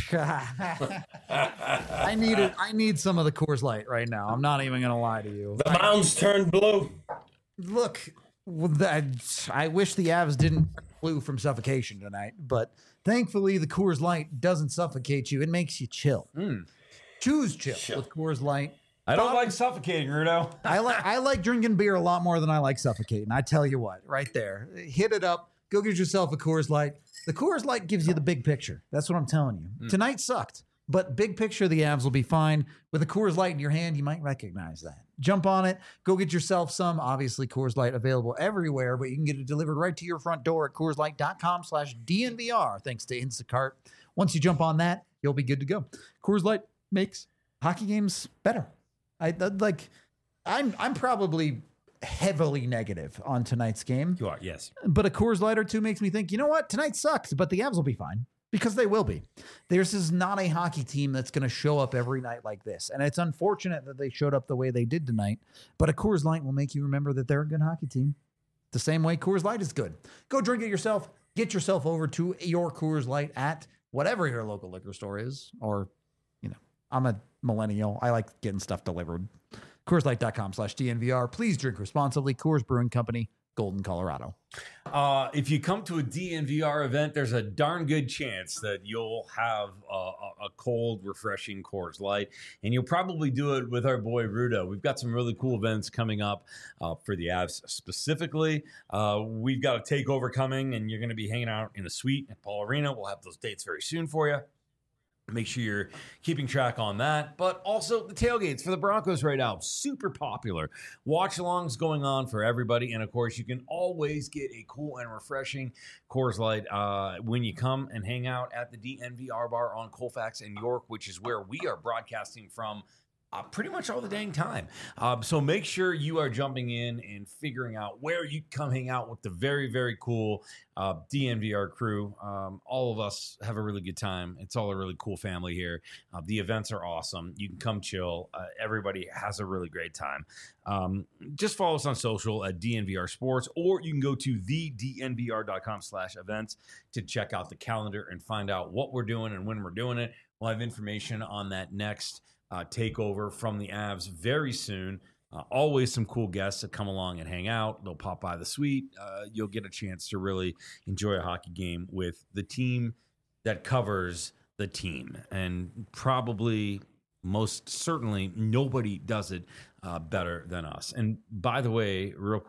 I need it. I need some of the Coors Light right now. I'm not even going to lie to you. The mounds turned blue. Look, well, that, I wish the Avs didn't flew from suffocation tonight, but thankfully the Coors Light doesn't suffocate you. It makes you chill. Mm. Choose chill, Chill. with Coors Light. I don't like suffocating, Rudo. I like I like drinking beer a lot more than I like suffocating. I tell you what, right there. Hit it up. Go get yourself a Coors Light. The Coors Light gives you the big picture. That's what I'm telling you. Mm. Tonight sucked, but big picture, the Avs will be fine. With a Coors Light in your hand, you might recognize that. Jump on it. Go get yourself some. Obviously, Coors Light available everywhere, but you can get it delivered right to your front door at CoorsLight.com slash DNVR, thanks to Instacart. Once you jump on that, you'll be good to go. Coors Light makes hockey games better. I I'd like. I'm I'm probably heavily negative on tonight's game, You are, yes. but a Coors Light or two makes me think, you know what, tonight sucked, but the Avs will be fine because they will be. This is not a hockey team that's going to show up every night like this, and it's unfortunate that they showed up the way they did tonight. But a Coors Light will make you remember that they're a good hockey team, the same way Coors Light is good. Go drink it yourself. Get yourself over to your Coors Light at whatever your local liquor store is, or you know, I'm a millennial. I like getting stuff delivered. CoorsLight.com slash DNVR. Please drink responsibly. Coors Brewing Company, Golden, Colorado. Uh, if you come to a D N V R event, there's a darn good chance that you'll have a, a, a cold, refreshing Coors Light, and you'll probably do it with our boy Rudo. We've got some really cool events coming up uh, for the Avs specifically. Uh, we've got a takeover coming, and you're going to be hanging out in a suite at Paul Arena. We'll have those dates very soon for you. Make sure you're keeping track on that. But also the tailgates for the Broncos right now, super popular. Watch alongs going on for everybody. And of course, you can always get a cool and refreshing Coors Light uh, when you come and hang out at the D N V R bar on Colfax and York, which is where we are broadcasting from Uh, pretty much all the dang time. Um, so make sure you are jumping in and figuring out where you come hang out with the very, very cool uh, D N V R crew. Um, all of us have a really good time. It's all a really cool family here. Uh, the events are awesome. You can come chill. Uh, everybody has a really great time. Um, just follow us on social at D N V R Sports, or you can go to the D N V R dot com slash events to check out the calendar and find out what we're doing and when we're doing it. We'll have information on that next Uh, takeover from the Avs very soon. Uh, always some cool guests that come along and hang out. They'll pop by the suite. Uh, you'll get a chance to really enjoy a hockey game with the team that covers the team. And probably, most certainly, nobody does it uh, better than us. And by the way, real quick,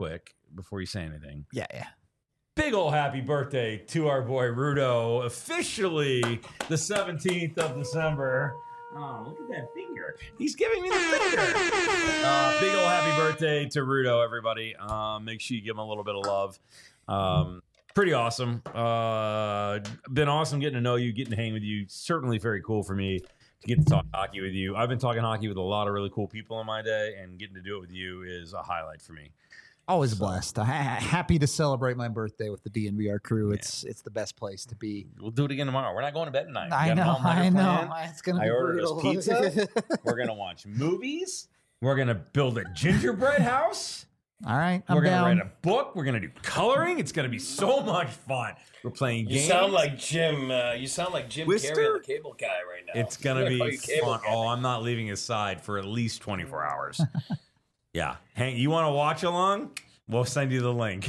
before you say anything. Yeah, yeah. Big ol' happy birthday to our boy Rudo. Officially the seventeenth of December. Oh, look at that finger. He's giving me the finger. Uh, big ol' happy birthday to Rudo, everybody. Uh, make sure you give him a little bit of love. Um, pretty awesome. Uh, been awesome getting to know you, getting to hang with you. Certainly very cool for me to get to talk hockey with you. I've been talking hockey with a lot of really cool people in my day, and getting to do it with you is a highlight for me. Always blessed. Ha- happy to celebrate my birthday with the D N V R crew. It's yeah. it's the best place to be. We'll do it again tomorrow. We're not going to bed tonight. I know, I know. Plan. It's gonna I be ordered brutal. us pizza. We're gonna watch movies. We're gonna build a gingerbread house. All right, I'm We're gonna down. write a book. We're gonna do coloring. It's gonna be so much fun. We're playing You games. sound like Jim. Uh, you sound like Jim Twister? Carrey, the cable guy, right now. It's gonna I'm be call you cable fun. guy. Oh, I'm not leaving his side for at least twenty-four hours. Yeah, Hank, you want to watch along? We'll send you the link.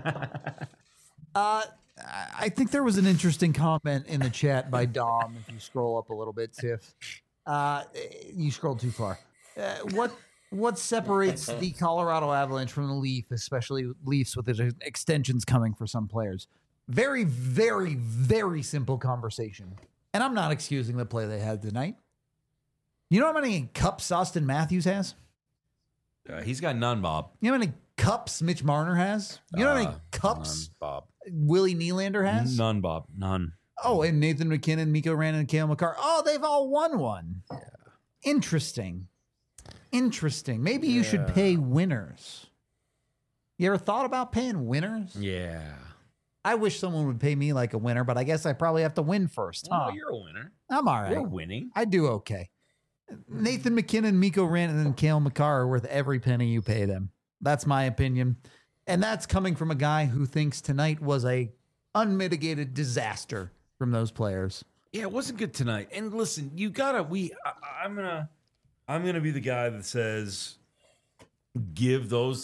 uh, I think there was an interesting comment in the chat by Dom. If you scroll up a little bit, Tiff, uh, you scrolled too far. Uh, what what separates the Colorado Avalanche from the Leaf, especially Leafs with the extensions coming for some players? Very, very, very simple conversation. And I'm not excusing the play they had tonight. You know how many cups Austin Matthews has? Uh, he's got none, Bob. You know how many cups Mitch Marner has? You know how many Uh, cups none, Bob. Willie Nylander has? None, Bob. None. Oh, and Nathan McKinnon, Mikko Rantanen, and Cale Makar. Oh, they've all won one. Yeah. Interesting. Interesting. Maybe you should pay winners. You ever thought about paying winners? Yeah. I wish someone would pay me like a winner, but I guess I probably have to win first. Well, Huh? you're a winner. I'm all right. We're winning. I do okay. Nathan McKinnon, Mikko Rantanen, and Cale Makar are worth every penny you pay them. That's my opinion. And that's coming from a guy who thinks tonight was a unmitigated disaster from those players. Yeah, it wasn't good tonight. And listen, you gotta. We. I, I'm gonna. I'm gonna be the guy that says, give those.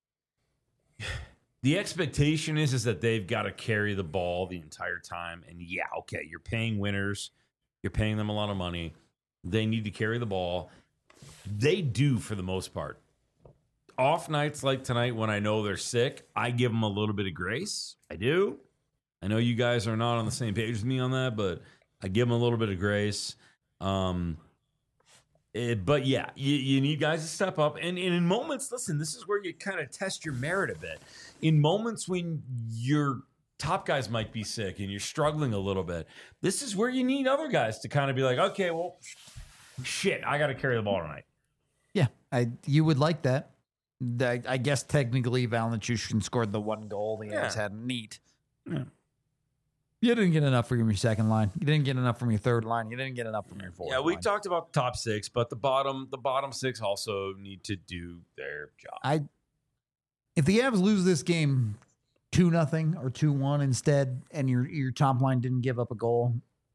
The expectation is is that they've got to carry the ball the entire time. And yeah, okay, you're paying winners. You're paying them a lot of money. They need to carry the ball. They do for the most part. Off nights like tonight when I know they're sick, I give them a little bit of grace. I do. I know you guys are not on the same page with me on that, but I give them a little bit of grace. Um, it, but yeah, you, you need guys to step up. And, and in moments, listen, this is where you kind of test your merit a bit. In moments when your top guys might be sick and you're struggling a little bit, this is where you need other guys to kind of be like, okay, well, shit, I got to carry the ball tonight. Yeah, I you would like that. I, I guess technically Val Nichushkin scored the one goal the Avs Yeah. had. Neat. Yeah. You didn't get enough from your second line. You didn't get enough from your third line. You didn't get enough from your fourth Yeah, we line. talked about the top six, but the bottom the bottom six also need to do their job. I if the Avs lose this game two nothing or two one instead, and your your top line didn't give up a goal,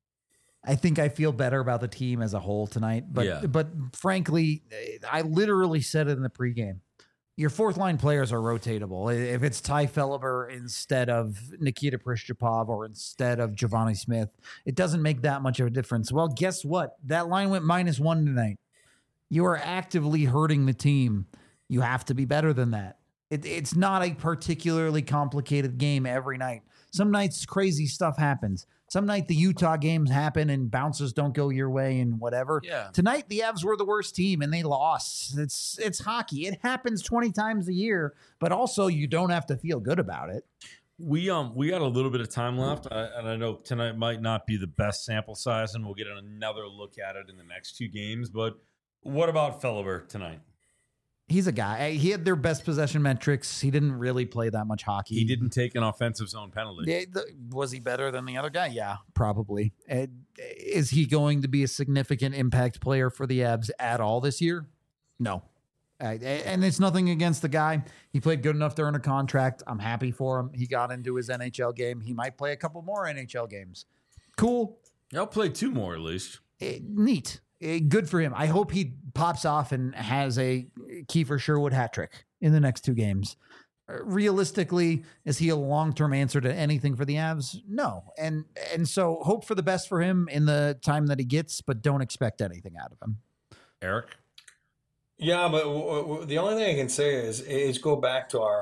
I think I feel better about the team as a whole tonight. But Yeah. but frankly, I literally said it in the pregame. Your fourth line players are rotatable. If it's Ty Felliber instead of Nikita Prishchapov or instead of Giovanni Smith, it doesn't make that much of a difference. Well, guess what? That line went minus one tonight. You are actively hurting the team. You have to be better than that. It, it's not a particularly complicated game every night. Some nights crazy stuff happens. Some night the Utah games happen and bounces don't go your way and whatever. Yeah. Tonight the Avs were the worst team and they lost. It's it's hockey. It happens twenty times a year, but also you don't have to feel good about it. We um we got a little bit of time left, I, and I know tonight might not be the best sample size, and we'll get another look at it in the next two games. But what about Felliber tonight? He's a guy. He had their best possession metrics. He didn't really play that much hockey. He didn't take an offensive zone penalty. Yeah, the- was he better than the other guy? Yeah, probably. Uh, is he going to be a significant impact player for the Avs at all this year? No. Uh, and it's nothing against the guy. He played good enough to earn a contract. I'm happy for him. He got into his N H L game. He might play a couple more N H L games. Cool. I'll play two more at least. Uh, neat. Uh, good for him. I hope he pops off and has a Kiefer Sherwood hat trick in the next two games. Uh, Realistically, is he a long-term answer to anything for the Avs? No. And and so hope for the best for him in the time that he gets, but don't expect anything out of him. Eric? Yeah, but w- w- the only thing I can say is is go back to our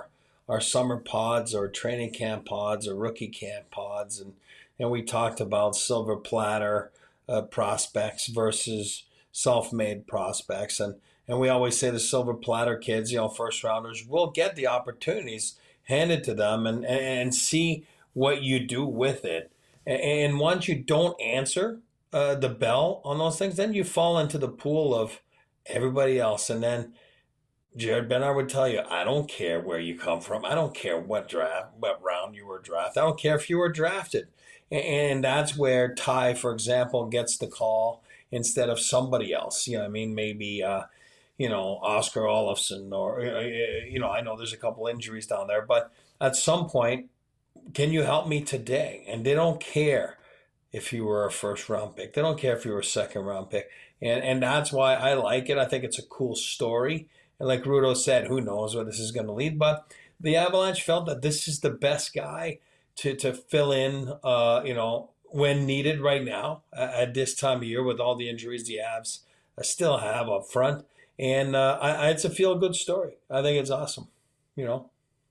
our summer pods or training camp pods or rookie camp pods, and and we talked about silver platter uh, prospects versus self-made prospects, and and we always say the silver platter kids, you know, first rounders, will get the opportunities handed to them and and see what you do with it. And once you don't answer uh, the bell on those things, then you fall into the pool of everybody else. And then Jared Bednar would tell you, I don't care where you come from. I don't care what draft, what round you were drafted. I don't care if you were drafted. And that's where Ty, for example, gets the call instead of somebody else. You know, I mean, maybe, uh, you know, Oscar Olofsson or, you know, I know there's a couple injuries down there, but at some point, can you help me today? And they don't care if you were a first round pick. They don't care if you were a second round pick. And and that's why I like it. I think it's a cool story. And like Rudo said, who knows where this is going to lead. But the Avalanche felt that this is the best guy to, to fill in, uh, you know, when needed right now at this time of year with all the injuries the Avs still have up front. And uh, I, I, it's a feel-good story. I think it's awesome, you know.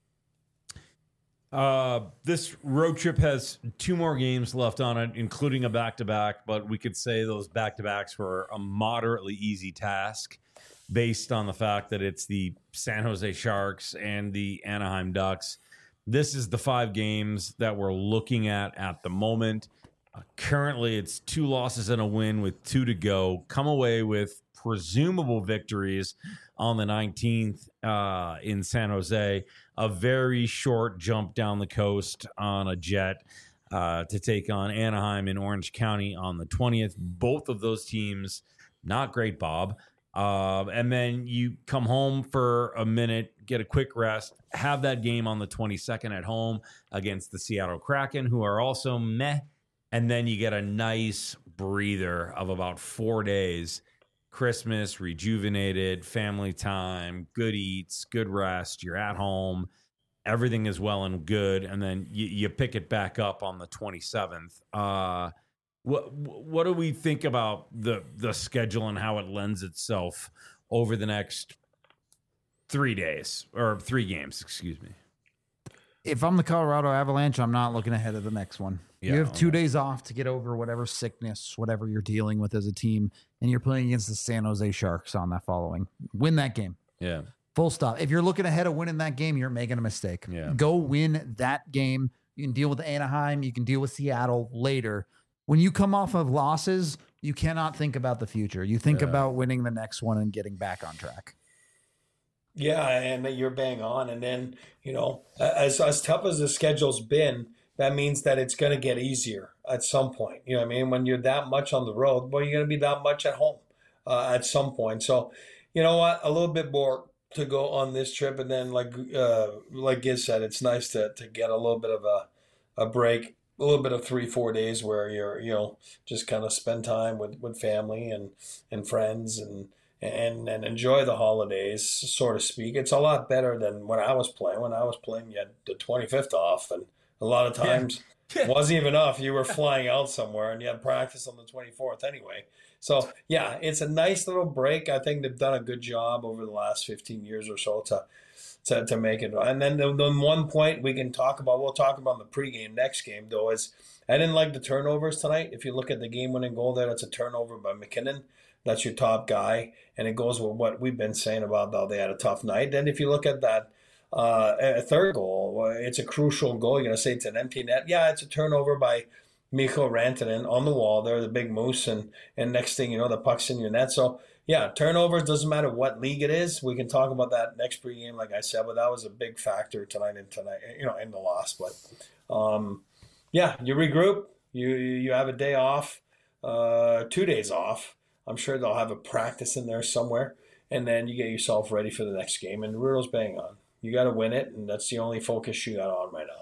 Uh, this road trip has two more games left on it, including a back-to-back, but we could say those back-to-backs were a moderately easy task based on the fact that it's the San Jose Sharks and the Anaheim Ducks. This is the five games that we're looking at at the moment. Uh, currently, it's two losses and a win with two to go. Come away with presumable victories on the nineteenth uh, in San Jose. A very short jump down the coast on a jet uh, to take on Anaheim in Orange County on the twentieth. Both of those teams, not great, Bob. Uh, and then you come home for a minute, get a quick rest, have that game on the twenty-second at home against the Seattle Kraken, who are also meh. And then you get a nice breather of about four days. Christmas, rejuvenated, family time, good eats, good rest. You're at home. Everything is well and good. And then you, you pick it back up on the twenty-seventh. Uh, what what do we think about the the schedule and how it lends itself over the next three days or three games? Excuse me. If I'm the Colorado Avalanche, I'm not looking ahead of the next one. Yeah, you have two okay. days off to get over whatever sickness, whatever you're dealing with as a team, and you're playing against the San Jose Sharks on that following. Win that game. Yeah. Full stop. If you're looking ahead of winning that game, you're making a mistake. Yeah. Go win that game. You can deal with Anaheim. You can deal with Seattle later. When you come off of losses, you cannot think about the future. You think Yeah. about winning the next one and getting back on track. Yeah, and you're bang on. And then, you know, as as tough as the schedule's been, that means that it's going to get easier at some point. You know what I mean? When you're that much on the road, well, you're going to be that much at home uh, at some point. So, you know what? A little bit more to go on this trip. And then, like uh, like Giz said, it's nice to to get a little bit of a, a break, a little bit of three, four days where you're, you know, just kind of spend time with, with family and, and friends and, and and enjoy the holidays, so to speak. It's a lot better than when I was playing. When I was playing, you had the twenty-fifth off, and a lot of times Yeah. it wasn't even off. You were flying out somewhere, and you had practice on the twenty-fourth anyway. So, yeah, it's a nice little break. I think they've done a good job over the last fifteen years or so to to, to make it. And then the, the one point we can talk about, we'll talk about in the pregame next game, though, is I didn't like the turnovers tonight. If you look at the game-winning goal there, that's a turnover by McKinnon. That's your top guy, and it goes with what we've been saying about how they had a tough night. Then if you look at that uh, a third goal, it's a crucial goal. You're going to say it's an empty net. Yeah, it's a turnover by Mikko Rantanen on the wall there, the big moose, and, and next thing you know, the puck's in your net. So, yeah, turnovers, doesn't matter what league it is. We can talk about that next pregame, like I said, but that was a big factor tonight and tonight, you know, in the loss. But, um, yeah, you regroup. You, you have a day off, uh, two days off. I'm sure they'll have a practice in there somewhere, and then you get yourself ready for the next game. And Rudo's bang on. You got to win it, and that's the only focus you got on right now.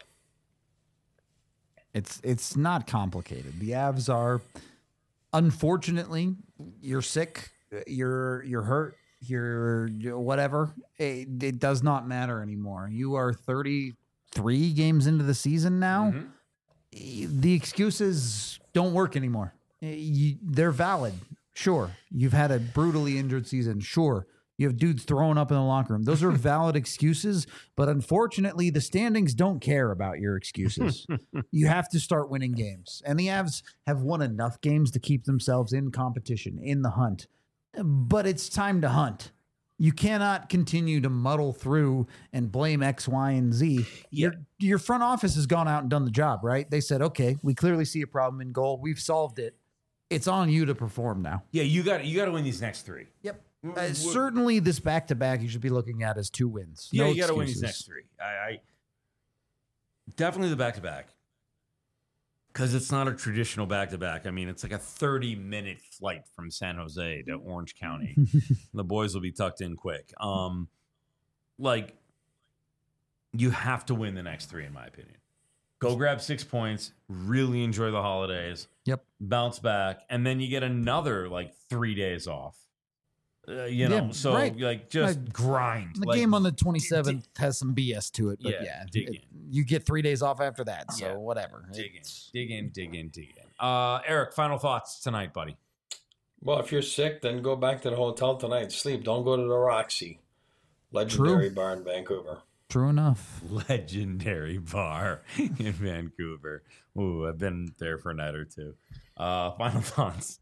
It's it's not complicated. The Avs are, unfortunately, you're sick, you're you're hurt, you're, you're whatever. It, it does not matter anymore. You are thirty-three games into the season now. Mm-hmm. The excuses don't work anymore. You, they're valid. Sure, you've had a brutally injured season. Sure, You have dudes throwing up in the locker room. Those are valid excuses, but unfortunately, the standings don't care about your excuses. You have to start winning games. And the Avs have won enough games to keep themselves in competition, in the hunt. But it's time to hunt. You cannot continue to muddle through and blame X, Y, and Z. Yeah. Your, your front office has gone out and done the job, right? They said, okay, we clearly see a problem in goal. We've solved it. It's on you to perform now. Yeah, you got you got to win these next three. Yep. Uh, certainly, this back-to-back you should be looking at as two wins. Yeah, No you got to win excuses. these next three. I, I definitely the back-to-back because it's not a traditional back-to-back. I mean, it's like a thirty-minute flight from San Jose to Orange County. The boys will be tucked in quick. Um, like you have to win the next three, in my opinion. Go grab six points. Really enjoy the holidays. Yep. Bounce back, and then you get another like three days off. Uh, you know, Yeah, so right. like just Uh, grind. The Like, game on the twenty-seventh has some B S to it, but Yeah, yeah, dig it- in. you get three days off after that, so Yeah, whatever. dig in, It's- dig in, dig in, dig in. Uh, Eric, final thoughts tonight, buddy. Well, if you're sick, then go back to the hotel tonight. Sleep. Don't go to the Roxy. Legendary True. bar in Vancouver. True enough. Legendary bar in Vancouver. Ooh, I've been there for a night or two. Uh, final thoughts.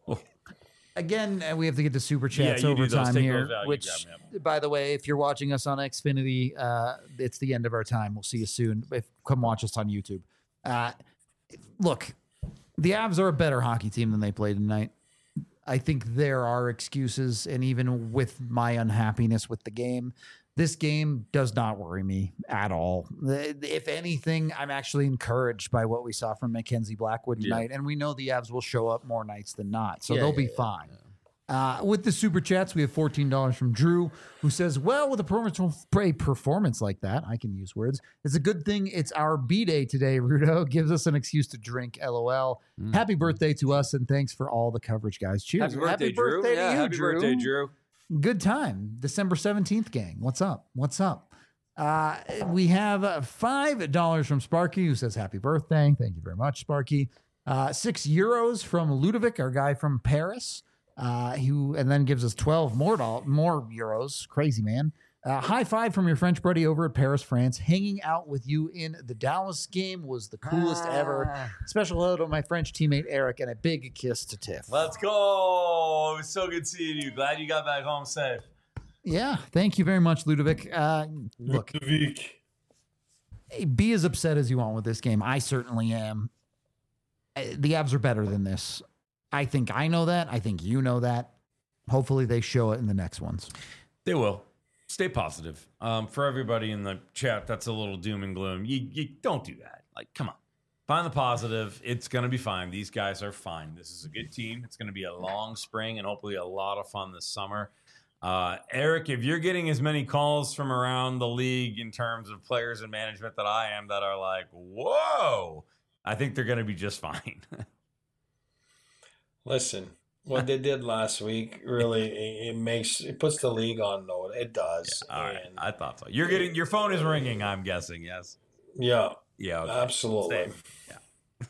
Again, uh, we have to get to super chats Yeah, you do those. overtime Take here. those out. You Which, grab them. by the way, if you're watching us on Xfinity, uh, it's the end of our time. We'll see you soon. If come watch us on YouTube. Uh, look, the Avs are a better hockey team than they played tonight. I think there are excuses, and even with my unhappiness with the game, this game does not worry me at all. If anything, I'm actually encouraged by what we saw from Mackenzie Blackwood Yeah. tonight, and we know the Avs will show up more nights than not, so Yeah, they'll yeah, be yeah, fine. Uh, with the super chats, we have fourteen dollars from Drew, who says, well, with a performance, a performance like that, I can use words. It's a good thing it's our B-Day today, Rudo. Gives us an excuse to drink, LOL. Mm. Happy birthday to us, and thanks for all the coverage, guys. Cheers. Happy birthday, Drew. to Yeah, you, happy Drew. birthday, Drew. Good time. December seventeenth, gang. What's up? What's up? Uh, we have uh, five dollars from Sparky, who says happy birthday. Thank you very much, Sparky. Uh, six euros from Ludovic, our guy from Paris, uh, who and then gives us twelve more doll- more euros. Crazy, man. Uh, high five from your French buddy over at Paris, France. Hanging out with you in the Dallas game was the coolest ever. Special hello to my French teammate Eric, and a big kiss to Tiff. Let's go. It was so good seeing you. Glad you got back home safe. Yeah, thank you very much, Ludovic. Uh, look, Ludovic. hey, be as upset as you want with this game. I certainly am. Uh, The Avs are better than this. I think I know that. I think you know that. Hopefully they show it in the next ones. They will. Stay positive. Um, for everybody in the chat, that's a little doom and gloom. You, you don't do that. Like, come on. Find the positive. It's going to be fine. These guys are fine. This is a good team. It's going to be a long spring and hopefully a lot of fun this summer. Uh, Eric, if you're getting as many calls from around the league in terms of players and management that I am that are like, whoa, I think they're going to be just fine. Listen, what they did last week really it, it makes it puts the league on note. It does. All right. And, I thought so. You're getting your phone is ringing, I'm guessing. Yes. yeah, Yeah. Okay. absolutely. Same. Yeah.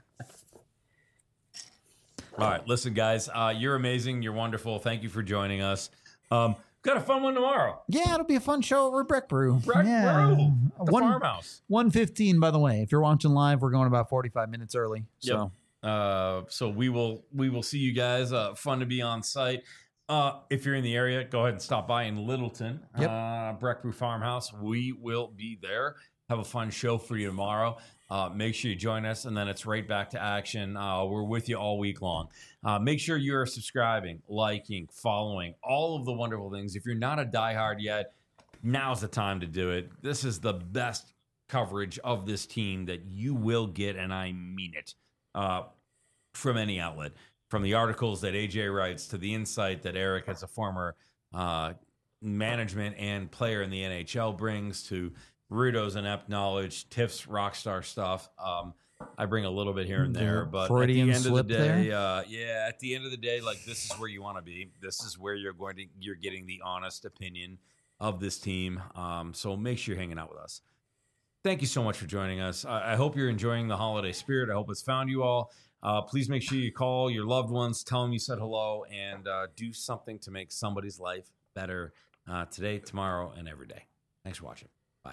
All right. Listen, guys, uh, you're amazing. You're wonderful. Thank you for joining us. Um, got a fun one tomorrow. Yeah, it'll be a fun show over at Breck Brew. Breck yeah. Brew, the One, farmhouse. one fifteen, by the way. If you're watching live, we're going about forty-five minutes early. So Uh, so we will we will see you guys. Uh, fun to be on site. Uh, if you're in the area, go ahead and stop by in Littleton, Yep. uh, Breck Brew Farmhouse. We will be there. Have a fun show for you tomorrow. Uh, make sure you join us, and then it's right back to action. Uh, we're with you all week long. Uh, make sure you're subscribing, liking, following, all of the wonderful things. If you're not a diehard yet, now's the time to do it. This is the best coverage of this team that you will get, and I mean it, uh, from any outlet. From the articles that A J writes to the insight that Eric, as a former uh, management and player in the N H L, brings to Rudo's inept knowledge, Tiff's rock star stuff. Um, I bring a little bit here and there, The but Freudian at the end of the slip day, there? uh, yeah, at the end of the day, like this is where you want to be. This is where you're going to you're getting the honest opinion of this team. Um, so make sure you're hanging out with us. Thank you so much for joining us. I, I hope you're enjoying the holiday spirit. I hope it's found you all. Uh, please make sure you call your loved ones, tell them you said hello, and uh, do something to make somebody's life better uh, today, tomorrow, and every day. Thanks for watching. Bye,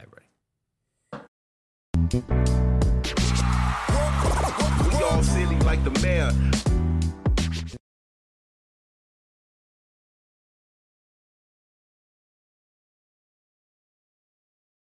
everybody. We all silly like the mayor.